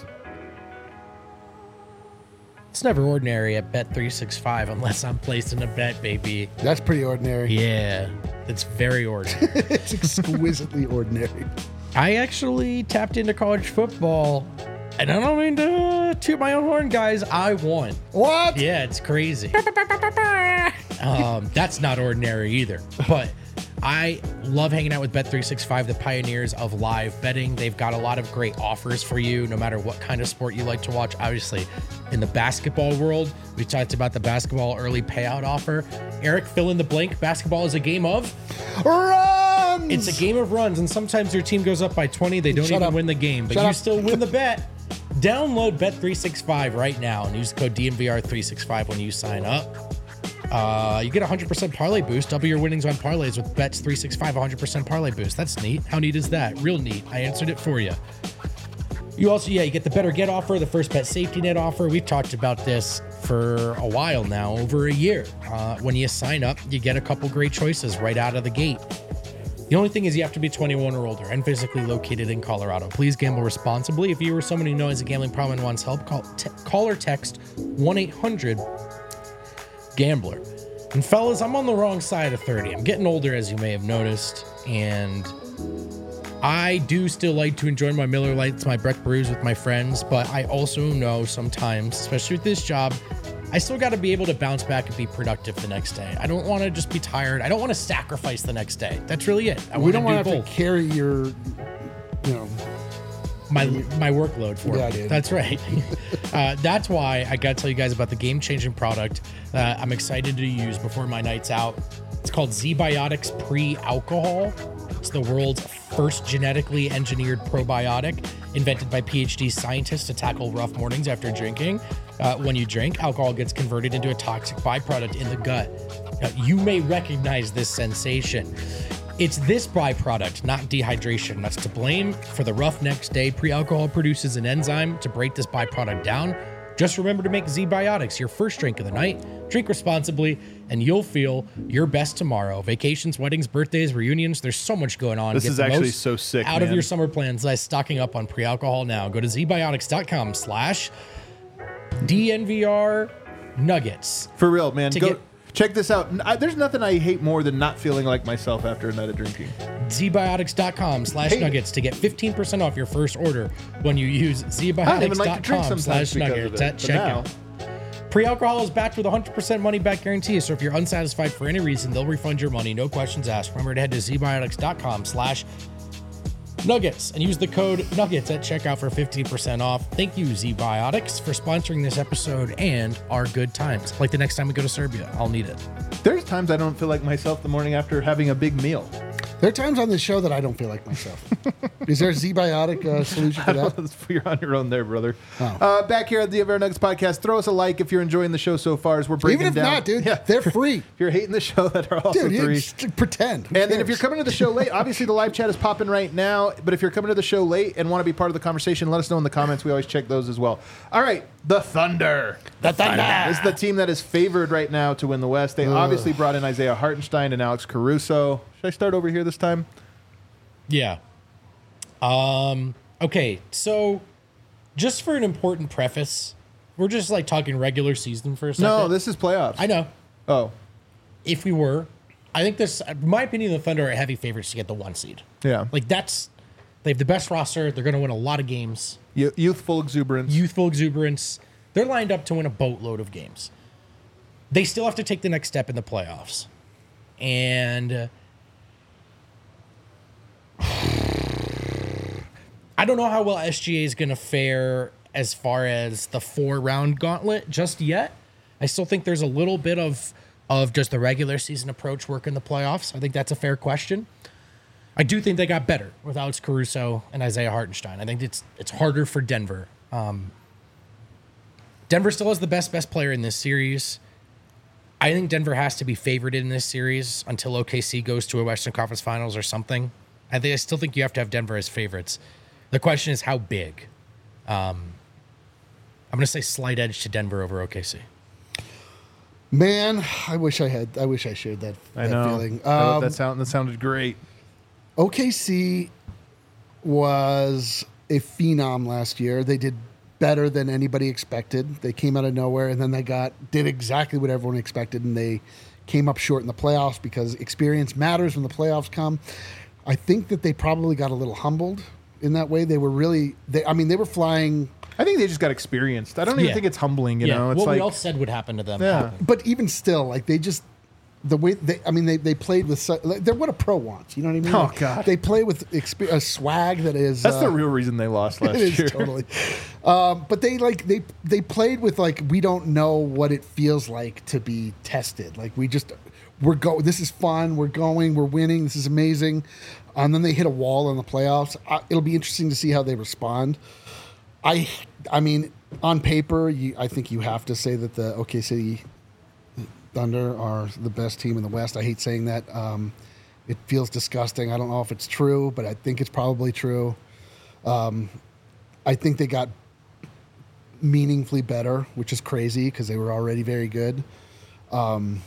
It's never ordinary at Bet three sixty-five unless I'm placing a bet, baby. That's pretty ordinary. Yeah, it's very ordinary. It's exquisitely ordinary. I actually tapped into college football, and I don't mean to toot my own horn, guys. I won. What? Yeah, it's crazy. um, that's not ordinary either. But I love hanging out with Bet three sixty-five, the pioneers of live betting. They've got a lot of great offers for you, no matter what kind of sport you like to watch. Obviously, in the basketball world, we talked about the basketball early payout offer. Eric, fill in the blank. Basketball is a game of Run! runs. It's a game of runs, and sometimes your team goes up by twenty. They don't Shut even up. win the game, but Shut you up. still win the bet. Download Bet three sixty-five right now and use code D M V R three sixty-five when you sign up. Uh, you get a one hundred percent parlay boost. Double your winnings on parlays with Bets three sixty-five one hundred percent parlay boost. That's neat. How neat is that? Real neat. I answered it for you. You also, yeah, you get the Better Get offer, the First Bet Safety Net offer. We've talked about this for a while now, over a year. Uh, when you sign up, you get a couple great choices right out of the gate. The only thing is you have to be twenty-one or older and physically located in Colorado. Please gamble responsibly. If you or someone you know has a gambling problem and wants help, call, te- call or text one eight hundred gambler. And fellas, I'm on the wrong side of thirty. I'm getting older, as you may have noticed, and I do still like to enjoy my Miller Lights, my Breck Brews with my friends, but I also know sometimes, especially with this job, I still got to be able to bounce back and be productive the next day. I don't want to just be tired. I don't want to sacrifice the next day. That's really it. I we want don't to want do to have both. to carry your, you know, my my workload for Yeah, me. dude. That's right. uh, that's why I got to tell you guys about the game-changing product that I'm excited to use before my night's out. It's called Z-Biotics Pre-Alcohol. It's the world's first genetically engineered probiotic invented by PhD scientists to tackle rough mornings after drinking. Uh, when you drink, alcohol gets converted into a toxic byproduct in the gut. Now, you may recognize this sensation. It's this byproduct, not dehydration, that's to blame for the rough next day. Pre-alcohol produces an enzyme to break this byproduct down. Just remember to make Z-Biotics your first drink of the night. Drink responsibly, and you'll feel your best tomorrow. Vacations, weddings, birthdays, reunions, there's so much going on. This Get is the actually most so sick, out of man. your summer plans by stocking up on pre-alcohol now. Go to zbiotics.com slash DNVR nuggets. For real, man. To Go get- check this out. I, there's nothing I hate more than not feeling like myself after a night of drinking. zbiotics.com slash Hey. nuggets to get fifteen percent off your first order when you use I don't even like to drink zbiotics.com sometimes slash because of nuggets it. at But now, checkout. Pre-alcohol is backed with a one hundred percent money-back guarantee, so if you're unsatisfied for any reason, they'll refund your money, no questions asked. Remember to head to zbiotics.com slash nuggets and use the code nuggets at checkout for fifteen percent off. Thank you, Z-Biotics, for sponsoring this episode and our good times. Like the next time we go to Serbia, I'll need it. there's times I don't feel like myself the morning after having a big meal. There are times on this show that I don't feel like myself. Is there a Z-Biotic uh, solution for that? You're on your own there, brother. Oh. Uh, back here at the Aver Nuggets podcast, throw us a like if you're enjoying the show so far as we're breaking Even if down. not, dude, Yeah. they're free. If you're hating the show, that are also Dude, you three. just pretend. Who And then if cares? you're coming to the show late, obviously the live chat is popping right now. But if you're coming to the show late and want to be part of the conversation, let us know in the comments. We always check those as well. All right, the Thunder. The Thunder. This is the team that is favored right now to win the West. They obviously brought in Isaiah Hartenstein and Alex Caruso. Should I start over here this time? Yeah. Um, okay, so just for an important preface, we're just like talking regular season for a second. No, this is playoffs. I know. Oh, If we were, I think this, in my opinion, the Thunder are heavy favorites to get the one seed. yeah. Like that's, they have the best roster. They're going to win a lot of games. Y- youthful exuberance. Youthful exuberance. They're lined up to win a boatload of games. They still have to take the next step in the playoffs. And uh, I don't know how well S G A is going to fare as far as the four round gauntlet just yet. I still think there's a little bit of of just the regular season approach work in the playoffs. I think that's a fair question. I do think they got better with Alex Caruso and Isaiah Hartenstein. I think it's it's harder for Denver. Um, Denver still has the best best player in this series. I think Denver has to be favored in this series until O K C goes to a Western Conference Finals or something. I think I still think you have to have Denver as favorites. The question is how big. Um, I'm going to say slight edge to Denver over O K C. Man, I wish I had. I wish I shared that, I that know. feeling. That- Um, that, sound, that sounded great. O K C was a phenom last year. They did better than anybody expected. They came out of nowhere, and then they got did exactly what everyone expected, and they came up short in the playoffs because experience matters when the playoffs come. I think that they probably got a little humbled in that way. They were really. They, I mean, they were flying. I think they just got experienced. I don't even Yeah. think it's humbling, you yeah, know? It's what like, we all said would happen to them. Yeah. happened. But even still, like they just the way they, I mean, they, they played with su- like, they're what a pro wants. You know what I mean? Oh, Like, God. they play with exp- a swag that is. that's uh, the real reason they lost last It is year. totally. Um, but they like they they played with like we don't know what it feels like to be tested. Like we just we're go. This is fun. We're going. We're winning. This is amazing. And then they hit a wall in the playoffs. I, it'll be interesting to see how they respond. I, I mean, on paper, you, I think you have to say that the O K C Thunder are the best team in the West. I hate saying that. Um, it feels disgusting. I don't know if it's true, but I think it's probably true. Um, I think they got meaningfully better, which is crazy because they were already very good. Um,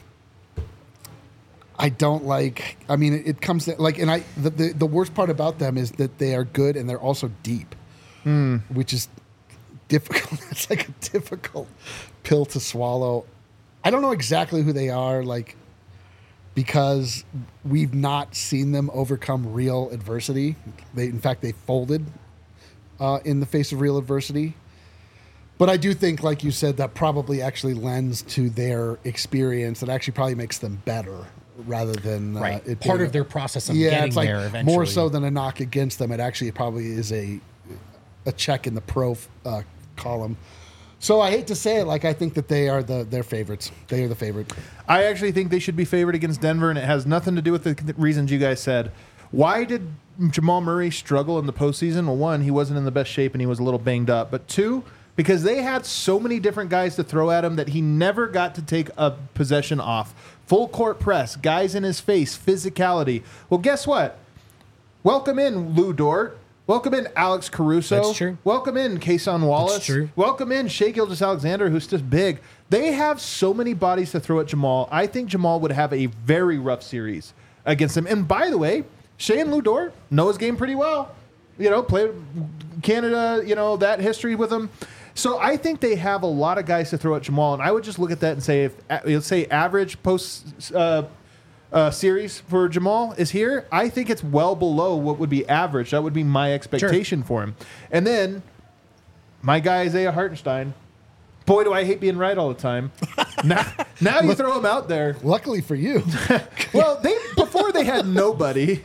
I don't like. I mean, it, it comes to, like, and I. The, the the worst part about them is that they are good and they're also deep, Mm. which is difficult. It's like a difficult pill to swallow. I don't know exactly who they are, like, because we've not seen them overcome real adversity. They, in fact, they folded uh, in the face of real adversity. But I do think, like you said, that probably actually lends to their experience. That actually probably makes them better rather than uh, Right. it Part being of their process of yeah, getting it's like there eventually. more so than a knock against them. It actually probably is a a check in the pro uh, column. So I hate to say it, like I think that they are the their favorites. They are the favorite. I actually think they should be favored against Denver, and it has nothing to do with the reasons you guys said. Why did Jamal Murray struggle in the postseason? Well, one, he wasn't in the best shape and he was a little banged up. But two, because they had so many different guys to throw at him that he never got to take a possession off. Full court press, guys in his face, physicality. Well, guess what? Welcome in Lou Dort. Welcome in Alex Caruso. That's true. Welcome in Kason Wallace. That's true. Welcome in Shai Gilgeous-Alexander, who's just big. They have so many bodies to throw at Jamal. I think Jamal would have a very rough series against him. And by the way, Shai and Lou Dort know his game pretty well. You know, played Canada, you know, that history with him. So I think they have a lot of guys to throw at Jamal. And I would just look at that and say, if let's say average post uh, uh, series for Jamal is here, I think it's well below what would be average. That would be my expectation for him. And then my guy Isaiah Hartenstein. Boy, do I hate being right all the time. now, now you throw him out there. Luckily for you, Well, they before they had nobody.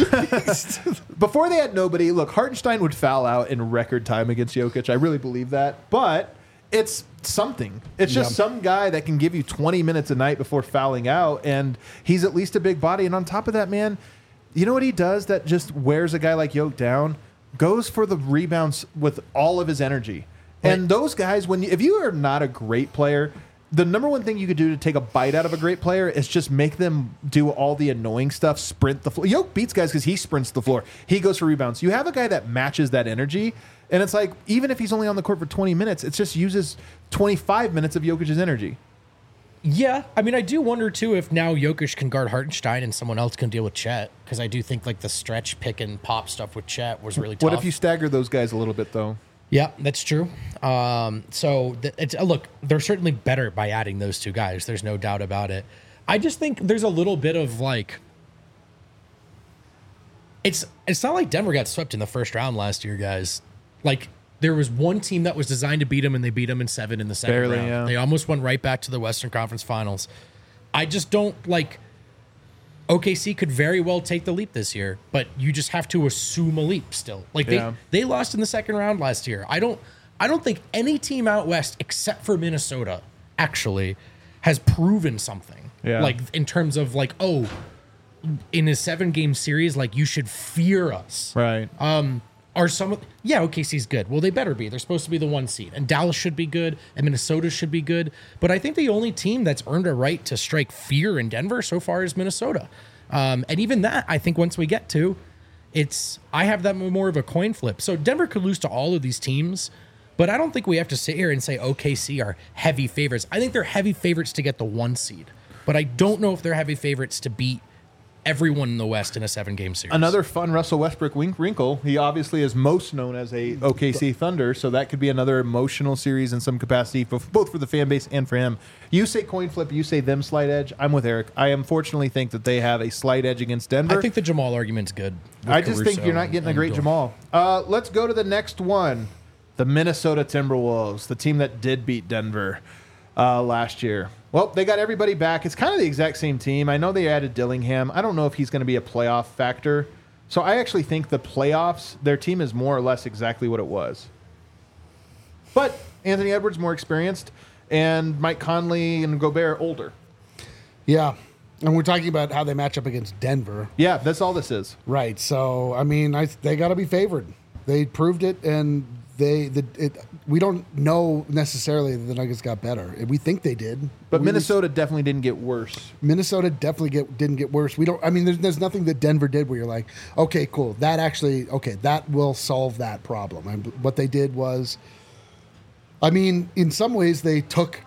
Before they had nobody, look, Hartenstein would foul out in record time against Jokic. I really believe that. But it's something. It's just Yeah. some guy that can give you twenty minutes a night before fouling out, and he's at least a big body. And on top of that, man, you know what he does that just wears a guy like Jokic down? Goes for the rebounds with all of his energy. And those guys, when you, if you are not a great player, the number one thing you could do to take a bite out of a great player is just make them do all the annoying stuff, sprint the floor. Yoke beats guys because he sprints the floor. He goes for rebounds. You have a guy that matches that energy, and it's like, even if he's only on the court for twenty minutes, it just uses twenty-five minutes of Jokic's energy. Yeah, I mean, I do wonder too if now Jokic can guard Hartenstein and someone else can deal with Chet, because I do think like the stretch pick and pop stuff with Chet was really tough. What if you stagger those guys a little bit, though? Yeah, that's true. Um, so th- it's uh, look, they're certainly better by adding those two guys. There's no doubt about it. I just think there's a little bit of like, it's it's not like Denver got swept in the first round last year, guys. Like there was one team that was designed to beat them, and they beat them in seven in the second Barely, round. yeah. They almost went right back to the Western Conference Finals. I just don't like. O K C could very well take the leap this year, but you just have to assume a leap still. Like they, Yeah. they lost in the second round last year. I don't I don't think any team out west except for Minnesota actually has proven something. Yeah. Like in terms of like, oh, in a seven game series, like you should fear us. Right. Um, are some of yeah, O K C's good. Well, they better be. They're supposed to be the one seed. And Dallas should be good, and Minnesota should be good. But I think the only team that's earned a right to strike fear in Denver so far is Minnesota. Um, and even that, I think once we get to, it's I have that more of a coin flip. So Denver could lose to all of these teams, but I don't think we have to sit here and say O K C are heavy favorites. I think they're heavy favorites to get the one seed, but I don't know if they're heavy favorites to beat everyone in the West in a seven-game series. Another fun Russell Westbrook wink wrinkle. He obviously is most known as a O K C Thunder, so that could be another emotional series in some capacity, for, both for the fan base and for him. You say coin flip, you say them slight edge. I'm with Eric. I unfortunately think that they have a slight edge against Denver. I think the Jamal argument's good. with I just think Caruso you're not getting a and great Dort. Jamal. Uh, let's go to the next one. The Minnesota Timberwolves, the team that did beat Denver uh, last year. Well, they got everybody back. It's kind of the exact same team. I know they added Dillingham. I don't know if he's going to be a playoff factor. So I actually think the playoffs, their team is more or less exactly what it was. But Anthony Edwards more experienced, and Mike Conley and Gobert older. yeah, And we're talking about how they match up against Denver. Yeah, that's all this is. Right. So, I mean, I, they got to be favored. They proved it, and they the it. We don't know necessarily that the Nuggets got better. We think they did, But we, Minnesota definitely didn't get worse. Minnesota definitely get didn't get worse. We don't. I mean, there's, there's nothing that Denver did where you're like, okay, cool. That actually, okay, that will solve that problem. And what they did was, I mean, in some ways, they took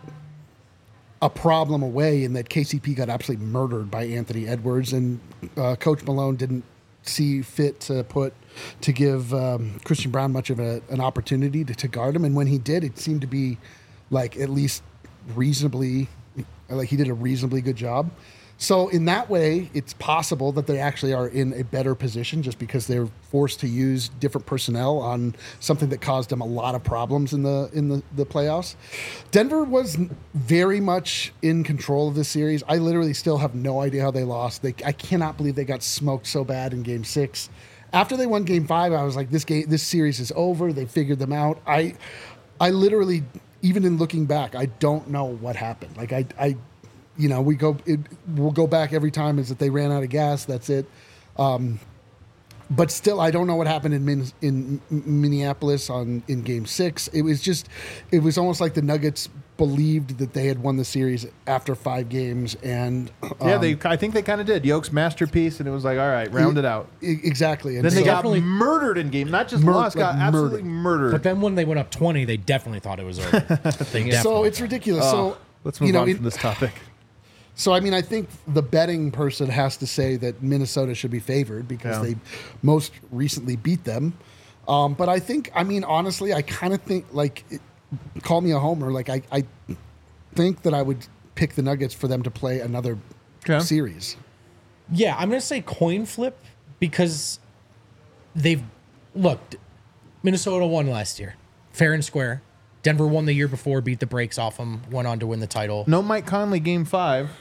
a problem away in that K C P got absolutely murdered by Anthony Edwards, and uh, Coach Malone didn't see fit to put to give um, Christian Brown much of a, an opportunity to, to guard him. And when he did, it seemed to be like at least reasonably, like he did a reasonably good job. So in that way, it's possible that they actually are in a better position just because they're forced to use different personnel on something that caused them a lot of problems in the in the, the playoffs. Denver was very much in control of this series. I literally still have no idea how they lost. They, I cannot believe they got smoked so bad in Game Six. After they won Game Five, I was like, "This game, this series is over." They figured them out. I, I literally, even in looking back, I don't know what happened. Like I, I. You know, we go. It, we'll go back every time. Is that they ran out of gas? That's it. Um, but still, I don't know what happened in Min, in Minneapolis on in Game Six. It was just, it was almost like the Nuggets believed that they had won the series after five games, and um, Yeah, they. I think they kind of did. Yoke's masterpiece, and it was like, all right, round it out. e- exactly. And Then they so- got definitely- murdered in game, not just Mur- lost, got like absolutely murdered. But then when they went up twenty, they definitely thought it was over. They definitely so it's ridiculous. Oh, so let's move you know, on it- from this topic. So, I mean, I think the betting person has to say that Minnesota should be favored because Yeah. they most recently beat them. Um, but I think, I mean, honestly, I kind of think, like, it, call me a homer. Like, I, I think that I would pick the Nuggets for them to play another Okay. series. Yeah, I'm going to say coin flip because they've looked. Minnesota won last year, fair and square. Denver won the year before, beat the brakes off them, went on to win the title. No Mike Conley, game five.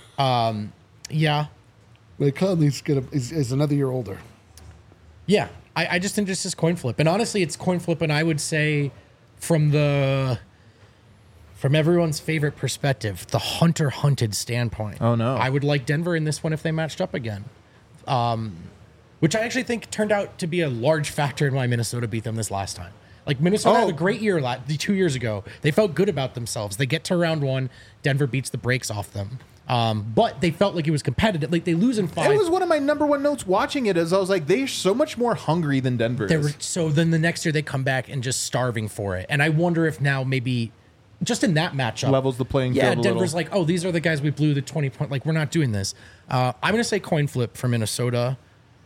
Yeah, Like, Conley's gonna, is, is another year older. yeah. I, I just think this is coin flip, and honestly, it's coin flip. And I would say, from the from everyone's favorite perspective, the hunter hunted standpoint. Oh, no. I would like Denver in this one if they matched up again. Um, which I actually think turned out to be a large factor in why Minnesota beat them this last time. Like Minnesota Oh. had a great year la- two years ago. They felt good about themselves. They get to round one. Denver beats the brakes off them. Um, but they felt like it was competitive. Like they lose in five. It was one of my number one notes watching it. As I was like, they're so much more hungry than Denver They is. were, so then the next year they come back and just starving for it. And I wonder if now maybe just in that matchup Levels the playing yeah, field a Denver's little. like, oh, these are the guys we blew the twenty point. Like we're not doing this. Uh, I'm gonna say coin flip for Minnesota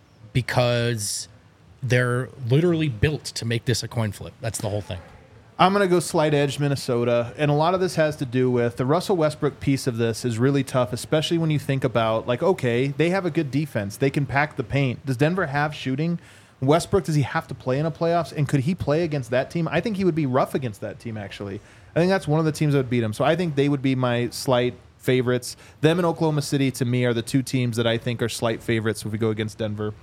because they're literally built to make this a coin flip. That's the whole thing. I'm going to go slight edge Minnesota. And a lot of this has to do with the Russell Westbrook piece of this is really tough, especially when you think about, like, okay, they have a good defense. They can pack the paint. Does Denver have shooting? Westbrook, does he have to play in a playoffs? And could he play against that team? I think he would be rough against that team, actually. I think that's one of the teams that would beat him. So I think they would be my slight favorites. Them and Oklahoma City, to me, are the two teams that I think are slight favorites if we go against Denver.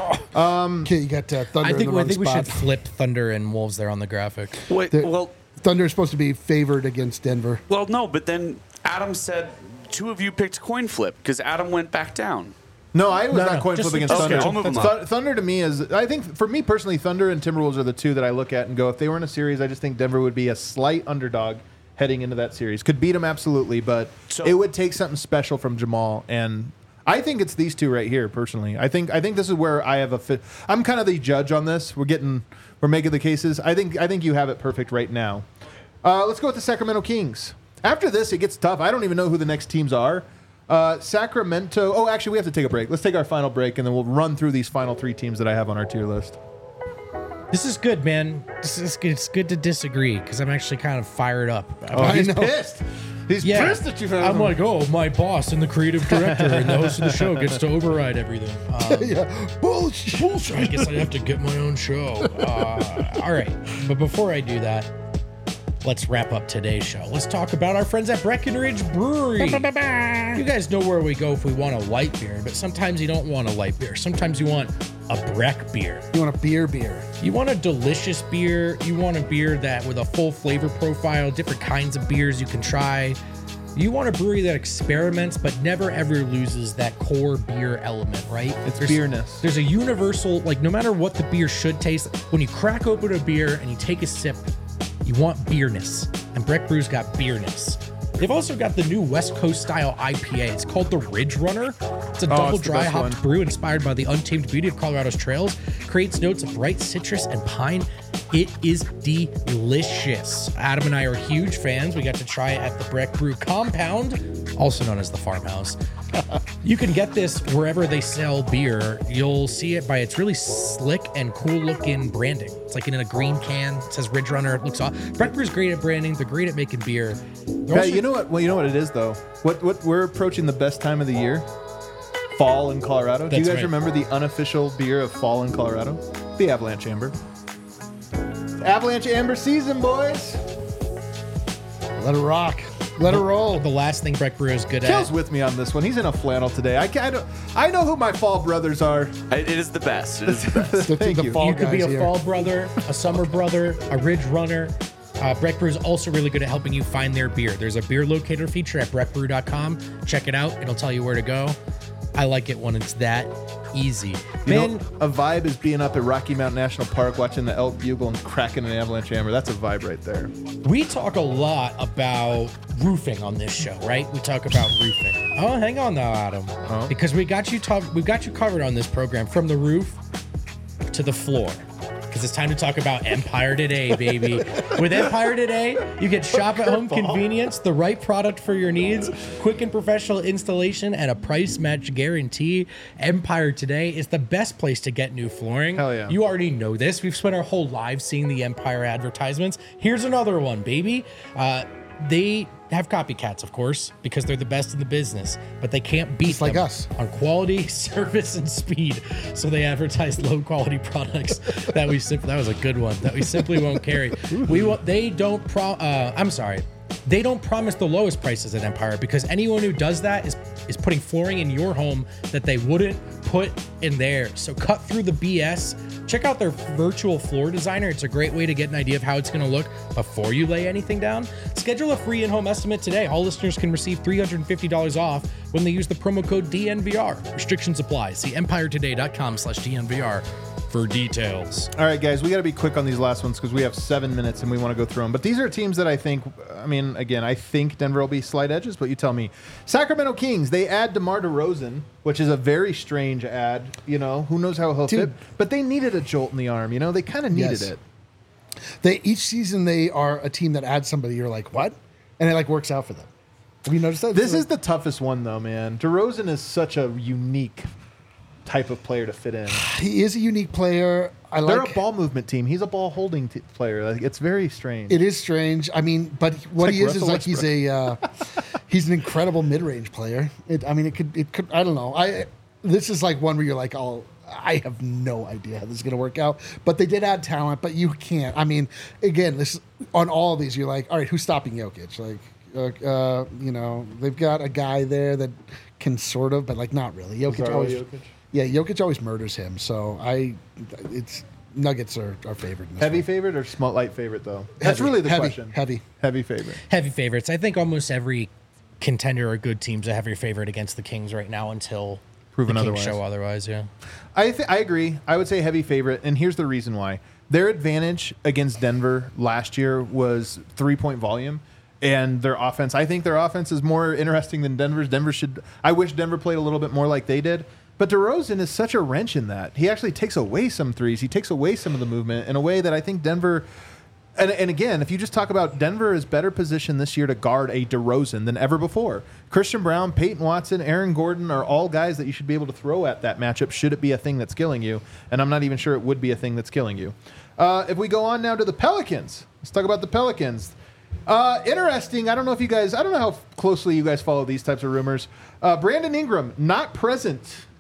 Okay, you got uh, Thunder I think in the I wrong think we spot. should flip Thunder and Wolves there on the graphic. Wait, The- well, Thunder is supposed to be favored against Denver. well, no, but then Adam said two of you picked coin flip because Adam went back down. No, I was No, not no, coin just- flip against okay, Thunder. I'll move them Thu- up. Thunder to me is, I think for me personally, Thunder and Timberwolves are the two that I look at and go, if they were in a series, I just think Denver would be a slight underdog heading into that series. Could beat them absolutely, but So- it would take something special from Jamal. And I think it's these two right here, personally. I think I think this is where I have a fit. I'm kind of the judge on this. We're getting, we're making the cases. I think I think you have it perfect right now. Uh, let's go with the Sacramento Kings. After this, it gets tough. I don't even know who the next teams are. Uh, Sacramento. Oh, actually, we have to take a break. Let's take our final break, and then we'll run through these final three teams that I have on our tier list. This is good, man. This is good. It's good to disagree because I'm actually kind of fired up. Oh, I he's know. pissed. He's Yeah, pissed that you have I'm him. like, oh, my boss and the creative director and the host of the show gets to override everything. Um, Yeah, bullshit. bullshit. I guess I have to get my own show. Uh, all right, but before I do that, let's wrap up today's show. Let's talk about our friends at Breckenridge Brewery. You guys know where we go if we want a light beer, but sometimes you don't want a light beer. Sometimes you want a Breck beer. You want a beer beer? You want a delicious beer. You want a beer that with a full flavor profile, different kinds of beers you can try. You want a brewery that experiments but never ever loses that core beer element, right? It's there's, beerness. There's a universal, like no matter what the beer should taste, when you crack open a beer and you take a sip, you want beerness. And Breck Brew's got beerness. They've also got the new West Coast style I P A. It's called the Ridge Runner. It's a Oh, double it's the dry best hopped one. brew inspired by the untamed beauty of Colorado's trails. Creates notes of bright citrus and pine. It is delicious. Adam and I are huge fans. We got to try it at the Breck Brew compound, also known as the farmhouse. You can get this wherever they sell beer. You'll see it by its really slick and cool looking branding. It's like in a green can. It says Ridge Runner. It looks awesome. Breck Brew's great at branding. They're great at making beer. They're Hey, also- you know what? Well, you know what it is though. What what we're approaching the best time of the year, fall in Colorado. Do you That's guys right. remember the unofficial beer of fall in Colorado? The Avalanche Amber. Avalanche Amber season, boys. Let it rock. Let it roll. The last thing Breck Brew is good Kale's at. with me on this one. He's in a flannel today. I, can't, I, don't, I know who my fall brothers are. I- It is the best. It is the best. The, Thank the you. fall You could be guys a here. fall brother, a summer brother, a ridge runner. Uh, Breck Brew is also really good at helping you find their beer. There's a beer locator feature at breck brew dot com. Check it out. It'll tell you where to go. I like it when it's that easy. You Man, know, a vibe is being up at Rocky Mountain National Park watching the elk bugle and cracking an Avalanche Amber. That's a vibe right there. we talk a lot about roofing on this show, right? We talk about roofing. Oh, hang on now, Adam. Oh. Because we got you talk, we've got you covered on this program from the roof to the floor. Because it's time to talk about Empire Today, baby. With Empire Today, you get shop at home convenience, the right product for your needs, quick and professional installation, and a price match guarantee. Empire Today is the best place to get new flooring. Hell yeah. You already know this. We've spent our whole lives seeing the Empire advertisements. Here's another one, baby. Uh, they have copycats, of course, because they're the best in the business, but they can't beat Just like them us. on quality, service, and speed. So they advertise low quality products that we simply, that was a good one, that we simply won't carry. We won't, they don't pro, uh, I'm sorry. They don't promise the lowest prices at Empire, because anyone who does that is is putting flooring in your home that they wouldn't put in theirs. So cut through the B S. Check out their virtual floor designer. It's a great way to get an idea of how it's going to look before you lay anything down. Schedule a free in-home estimate today. All listeners can receive three hundred fifty dollars off when they use the promo code D N V R. Restrictions apply. See empire today dot com slash D N V R for details. All right, guys, we got to be quick on these last ones because we have seven minutes and we want to go through them. But these are teams that I think, I mean, again, I think Denver will be slight edges, but you tell me. Sacramento Kings, they add DeMar DeRozan, which is a very strange ad. You know, who knows how he'll Dude. fit? But they needed a jolt in the arm. You know, they kind of needed Yes. it. They each season they are a team that adds somebody. You're like, what? And it like works out for them. Have you noticed that? This Like- is the toughest one, though, man. DeRozan is such a unique type of player to fit in. he is a unique player. I They're like. a ball movement team. He's a ball holding t- player. Like, it's very strange. It is strange. I mean, but what like he is is Russell like he's a uh, he's an incredible mid range player. It, I mean, it could it could I don't know. I this is like one where you're like, oh, I have no idea how this is going to work out. But they did add talent, but you can't. I mean, again, this on all of these, you're like, all right, who's stopping Jokic? Like, uh, uh, you know, they've got a guy there that can sort of, but like not really. Jokic Lazaro always, Jokic? yeah, Jokic always murders him. So I, it's Nuggets are, are favored. In this Heavy one. favorite or small light favorite, though? That's Heavy, really the heavy, question. Heavy. Heavy favorite. Heavy favorites. I think almost every contender or good team's a heavy favorite against the Kings right now until Proven the Kings otherwise. show otherwise. Yeah. I th- I agree. I would say heavy favorite, and here's the reason why. Their advantage against Denver last year was three-point volume and their offense. I think their offense is more interesting than Denver's. Denver should. I wish Denver played a little bit more like they did. But DeRozan is such a wrench in that. He actually takes away some threes. He takes away some of the movement in a way that I think Denver. And, and again, if you just talk about Denver is better positioned this year to guard a DeRozan than ever before. Christian Brown, Peyton Watson, Aaron Gordon are all guys that you should be able to throw at that matchup should it be a thing that's killing you. And I'm not even sure it would be a thing that's killing you. Uh, if we go on now to the Pelicans, let's talk about the Pelicans. Uh, interesting. I don't know if you guys, I don't know how closely you guys follow these types of rumors. Uh, Brandon Ingram, not present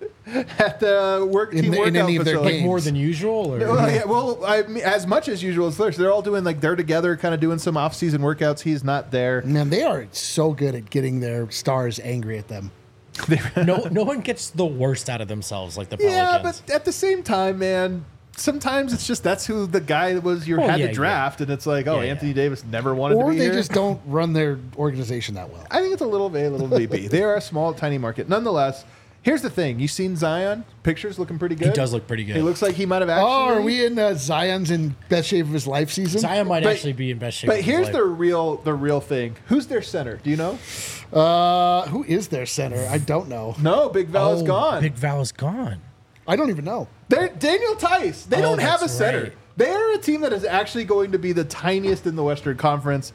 at the work In team the- in workout any of their facility. games. More than usual, or Well, yeah, well, I mean, as much as usual as theirs. They're all doing like they're together, kind of doing some off-season workouts. He's not there. Man, they are so good at getting their stars angry at them. no, no one gets the worst out of themselves like the Yeah, Pelicans. but at the same time, man, sometimes it's just that's who the guy that was you Oh, had yeah, to draft, and it's like, oh, Yeah, Anthony yeah. Davis never wanted Or to be they here. just don't run their organization that well. I think it's a little A, a little B B. They are a small, tiny market. Nonetheless, here's the thing: you seen Zion? Pictures looking pretty good. He does look pretty good. He looks like he might have actually. Oh, are we in uh, Zion's in best shape of his life season? Zion might But- actually be in best shape. But of his here's life. the real, the real thing. Who's their center? Do you know? Uh, who is their center? I don't know. No, Big Val is Oh, gone. Big Val is gone. I don't even know. They're Daniel Tice. They Oh, don't have a that's center. right. They are a team that is actually going to be the tiniest in the Western Conference.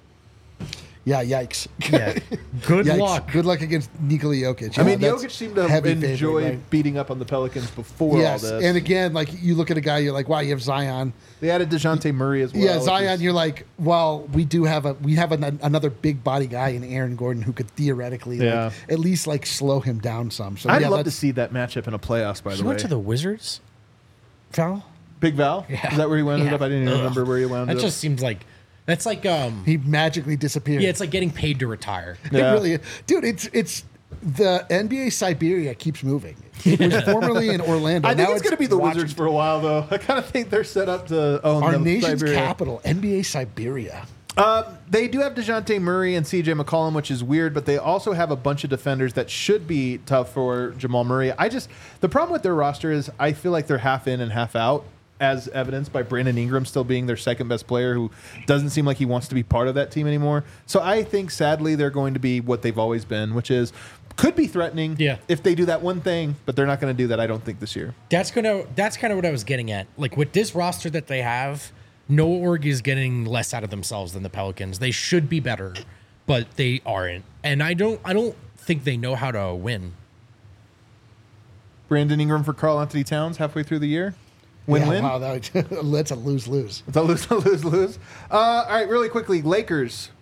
Yeah, yikes. Yeah. Good Yikes. luck. Good luck against Nikola Jokic. I Yeah, mean, that's Jokic seemed to heavy enjoy favorite, right? beating up on the Pelicans before Yes, all this. and again, like you look at a guy, you're like, wow, you have Zion. they added DeJounte Murray as well. yeah, which Zion. is- You're like, well, we do have a we have an, another big body guy in Aaron Gordon who could theoretically, Yeah. like, at least like slow him down some. So I'd yeah, love to that's- see that matchup in a playoffs. By He the way, went to the Wizards. Val. Big Val. Yeah. Is that where he wound Yeah. up? I didn't even Ugh. remember where he wound That up. just seems like that's like um. He magically disappeared. Yeah, it's like getting paid to retire. Yeah. It really, dude. It's it's the N B A Siberia keeps moving. It was formerly in Orlando. I think Now it's going to be the Washington. Wizards for a while, though. I kind of think they're set up to own Our the nation's Siberia. capital, N B A Siberia. Um, they do have DeJounte Murray and C J McCollum, which is weird, but they also have a bunch of defenders that should be tough for Jamal Murray. I just the problem with their roster is I feel like they're half in and half out, as evidenced by Brandon Ingram still being their second best player, who doesn't seem like he wants to be part of that team anymore. So I think sadly they're going to be what they've always been, which is could be threatening Yeah. if they do that one thing, but they're not going to do that. I don't think this year. That's gonna. That's kind of what I was getting at. Like with this roster that they have, no org is getting less out of themselves than the Pelicans. They should be better, but they aren't. And I don't. I don't think they know how to win. Brandon Ingram for Karl Anthony Towns halfway through the year. Win-win. Yeah, wow, that, that's a lose lose. It's a lose, lose, lose. Uh, all right, really quickly, Lakers.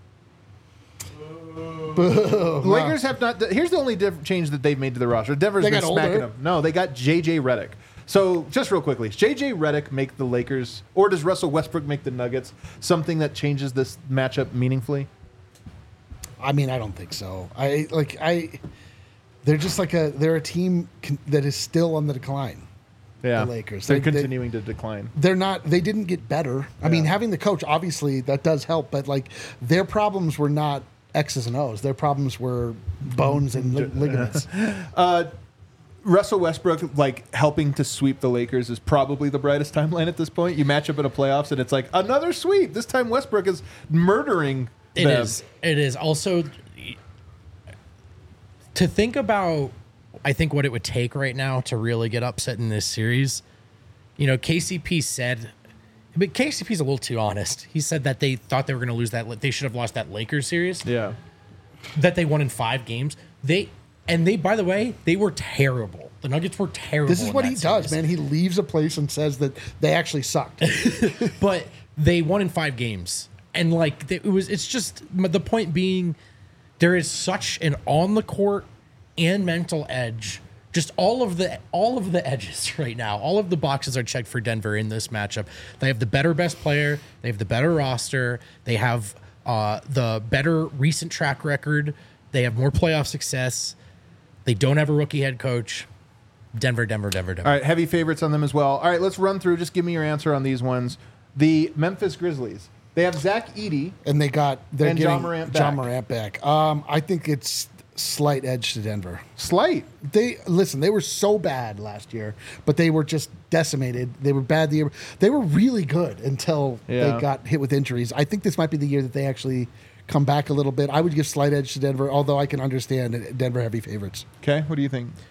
The Lakers have not. Here's the only diff- change that they've made to the roster. Denver's They been got smacking older. them. No, they got J J Redick. So just real quickly, does J J Redick make the Lakers, or does Russell Westbrook make the Nuggets? Something that changes this matchup meaningfully. I mean, I don't think so. I like I. They're just like a they're a team con- that is still on the decline. Yeah, The Lakers. They're They- they- continuing to decline. They're not. They didn't get better. I mean, Yeah. having the coach obviously that does help, but like their problems were not X's and O's. Their problems were bones and li- ligaments. Russell Westbrook, like helping to sweep the Lakers, is probably the brightest timeline at this point. You match up in a playoffs, and it's like another sweep. This time, Westbrook is murdering It them. is. It is also to think about. I think what it would take right now to really get upset in this series. You know, K C P said, but K C P's a little too honest. He said that they thought they were going to lose that. They should have lost that Lakers series. Yeah. That they won in five games. They and they, by the way, they were terrible. The Nuggets were terrible. This is in what that he does, series. man. He leaves a place and says that they actually sucked. But they won in five games, and like it was. It's just the point being, there is such an on the court and mental edge. Just all of the all of the edges right now. All of the boxes are checked for Denver in this matchup. They have the better best player. They have the better roster. They have uh, the better recent track record. They have more playoff success. They don't have a rookie head coach. Denver, Denver, Denver, Denver. All right, heavy favorites on them as well. All right, let's run through. Just give me your answer on these ones. The Memphis Grizzlies. They have Zach Edey. And they got they're And Ja getting Morant Ja back. Morant back. Um, I think it's slight edge to Denver. Slight. They listen. They were so bad last year, but they were just decimated. They were bad the year. They were really good until Yeah. they got hit with injuries. I think this might be the year that they actually come back a little bit. I would give slight edge to Denver, although I can understand Denver heavy favorites. Okay, what do you think?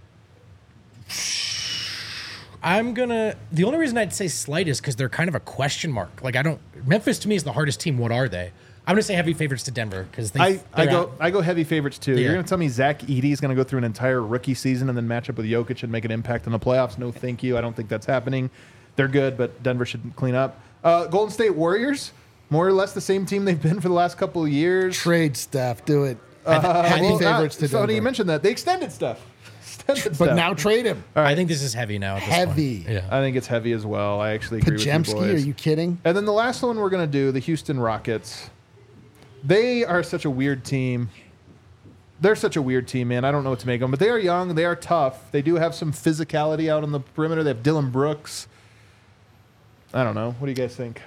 I'm gonna. The only reason I'd say slight is because they're kind of a question mark. Like I don't. Memphis to me is the hardest team. What are they? I'm gonna say heavy favorites to Denver because they. I, I they're go out. I go heavy favorites too. Yeah. You're gonna tell me Zach Edey is gonna go through an entire rookie season and then match up with Jokic and make an impact in the playoffs? No, thank you. I don't think that's happening. They're good, but Denver should clean up. Uh, Golden State Warriors, more or less the same team they've been for the last couple of years. Trade staff, do it. I, heavy think, Well, favorites uh, to so Denver. you mentioned that they extended stuff. Extended But stuff. now trade him. I think this is heavy now. At this Heavy. Point. Yeah. I think it's heavy as well. I actually agree with you Pajemski, boys. are you kidding? And then the last one we're going to do, the Houston Rockets. They are such a weird team. They're such a weird team, man. I don't know what to make of them, but they are young. They are tough. They do have some physicality out on the perimeter. They have Dylan Brooks. I don't know. What do you guys think?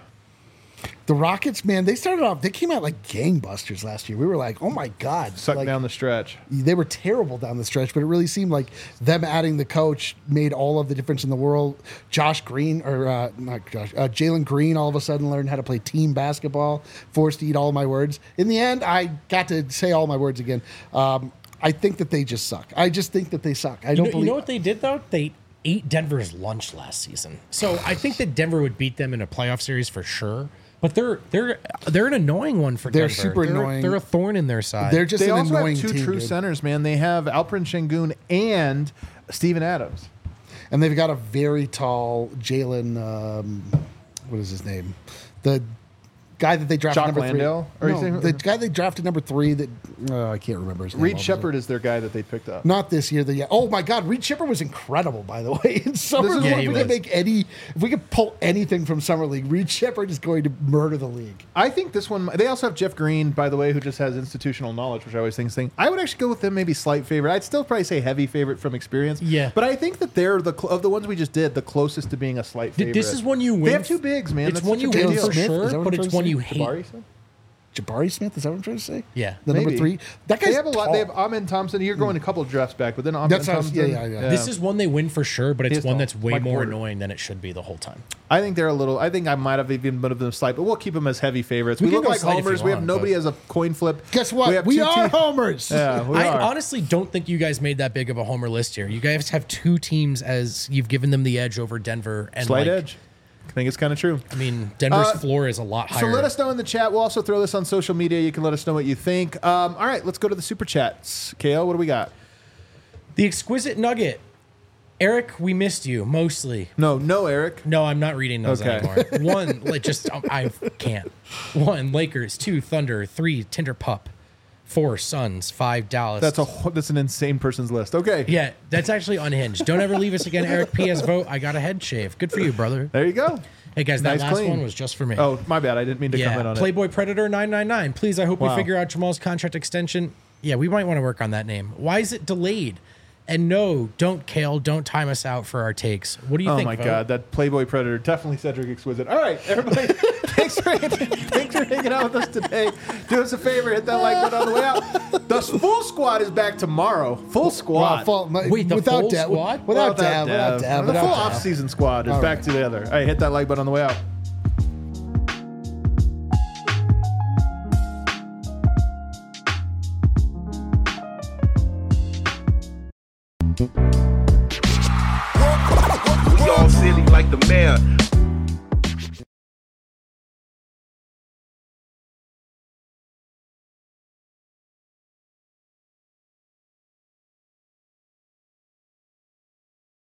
The Rockets, man, they started off, they came out like gangbusters last year. We were like, oh my God. Suck like, down the stretch. They were terrible down the stretch, but it really seemed like them adding the coach made all of the difference in the world. Josh Green, or uh, not Josh, uh, Jalen Green all of a sudden learned how to play team basketball, forced to eat all my words. In the end, I got to say all my words again. Um, I think that they just suck. I just think that they suck. I You don't know, believe you know what they did though? They ate Denver's lunch last season. So I think that Denver would beat them in a playoff series for sure. But they're they're they're an annoying one for They're Denver. super they're, annoying. They're a thorn in their side. They're just They an also annoying have two team, true dude. centers, man. They have Alperen Şengün and Steven Adams. And they've got a very tall Jalen, um, what is his name? The guy that they drafted Jock number Landale? Or three. you No, saying- the guy they drafted number three that, uh, I can't remember his name. Reed all of a sudden. Shepard is their guy that they picked up. Not this year. The yeah. Oh my God, Reed Shepard was incredible. By the way, in summer This is league, what if he we could was. make any, if we could pull anything from summer league, Reed Shepard is going to murder the league. I think this one. They also have Jeff Green, by the way, who just has institutional knowledge, which I always think is thing. I would actually go with them, maybe slight favorite. I'd still probably say heavy favorite from experience. Yeah. but I think that they're the cl- of the ones we just did the closest to being a slight Th- favorite. this is one you win. They have two bigs, man. It's That's one such you a big win deal. for Smith, is sure, that what but I'm it's trying one to you say? hate. Jabari Smith? Jabari Smith, is that what I'm trying to say? Yeah. The number Maybe. three. That guy's They have a lot. tall. They have Amin Thompson. You're going a couple of drafts back, but then Amin That's what I was- Thompson. yeah, yeah, yeah. This is one they win for sure, but it's is one tall. that's way Mike more Porter. annoying than it should be the whole time. I think they're a little. I think I might have even put them slight, but we'll keep them as heavy favorites. We, We can look go like slight if homers. you We have want, nobody but- as a coin flip. Guess what? have We, two are te- homers. Yeah, we I are. honestly don't think you guys made that big of a homer list here. You guys have two teams as you've given them the edge over Denver and Slight like, edge. I think it's kind of true. I mean, Denver's Uh, floor is a lot higher. So let us know in the chat. We'll also throw this on social media. You can let us know what you think. Um, all right, let's go to the super chats. K L, what do we got? The Exquisite Nugget. Eric, we missed you mostly. No, no, Eric. No, I'm not reading those Okay. anymore. One, like just um, I can't. One, Lakers. Two, Thunder. Three, Tinder Pup. Four, Suns. Five, Dallas. That's a wh- that's an insane person's list. Okay. Yeah, that's actually unhinged. Don't ever leave us again, Eric. P S vote. I got a head shave. Good for you, brother. There you go. Hey guys, that Nice last clean. one was just for me. Oh, my bad. I didn't mean to comment yeah, on Playboy Predator nine nine nine. Please, I hope Wow. we figure out Jamal's contract extension. Yeah, we might want to work on that name. Why is it delayed? And no, don't Kale, don't time us out for our takes. What do you it. Oh think? my Vote? God, that Playboy Predator definitely Cedric Exquisite. All right, everybody, thanks for thanks for hanging out with us today. Do us a favor, hit that like button on the way out. The full squad is back tomorrow. Full squad. Well, full- my- Wait, the without full Dev- squad? Without Well, Dev, without Dev, The without full Dev. off-season squad is All back right. together. All right, hit that like button on the way out. We all silly like the mayor.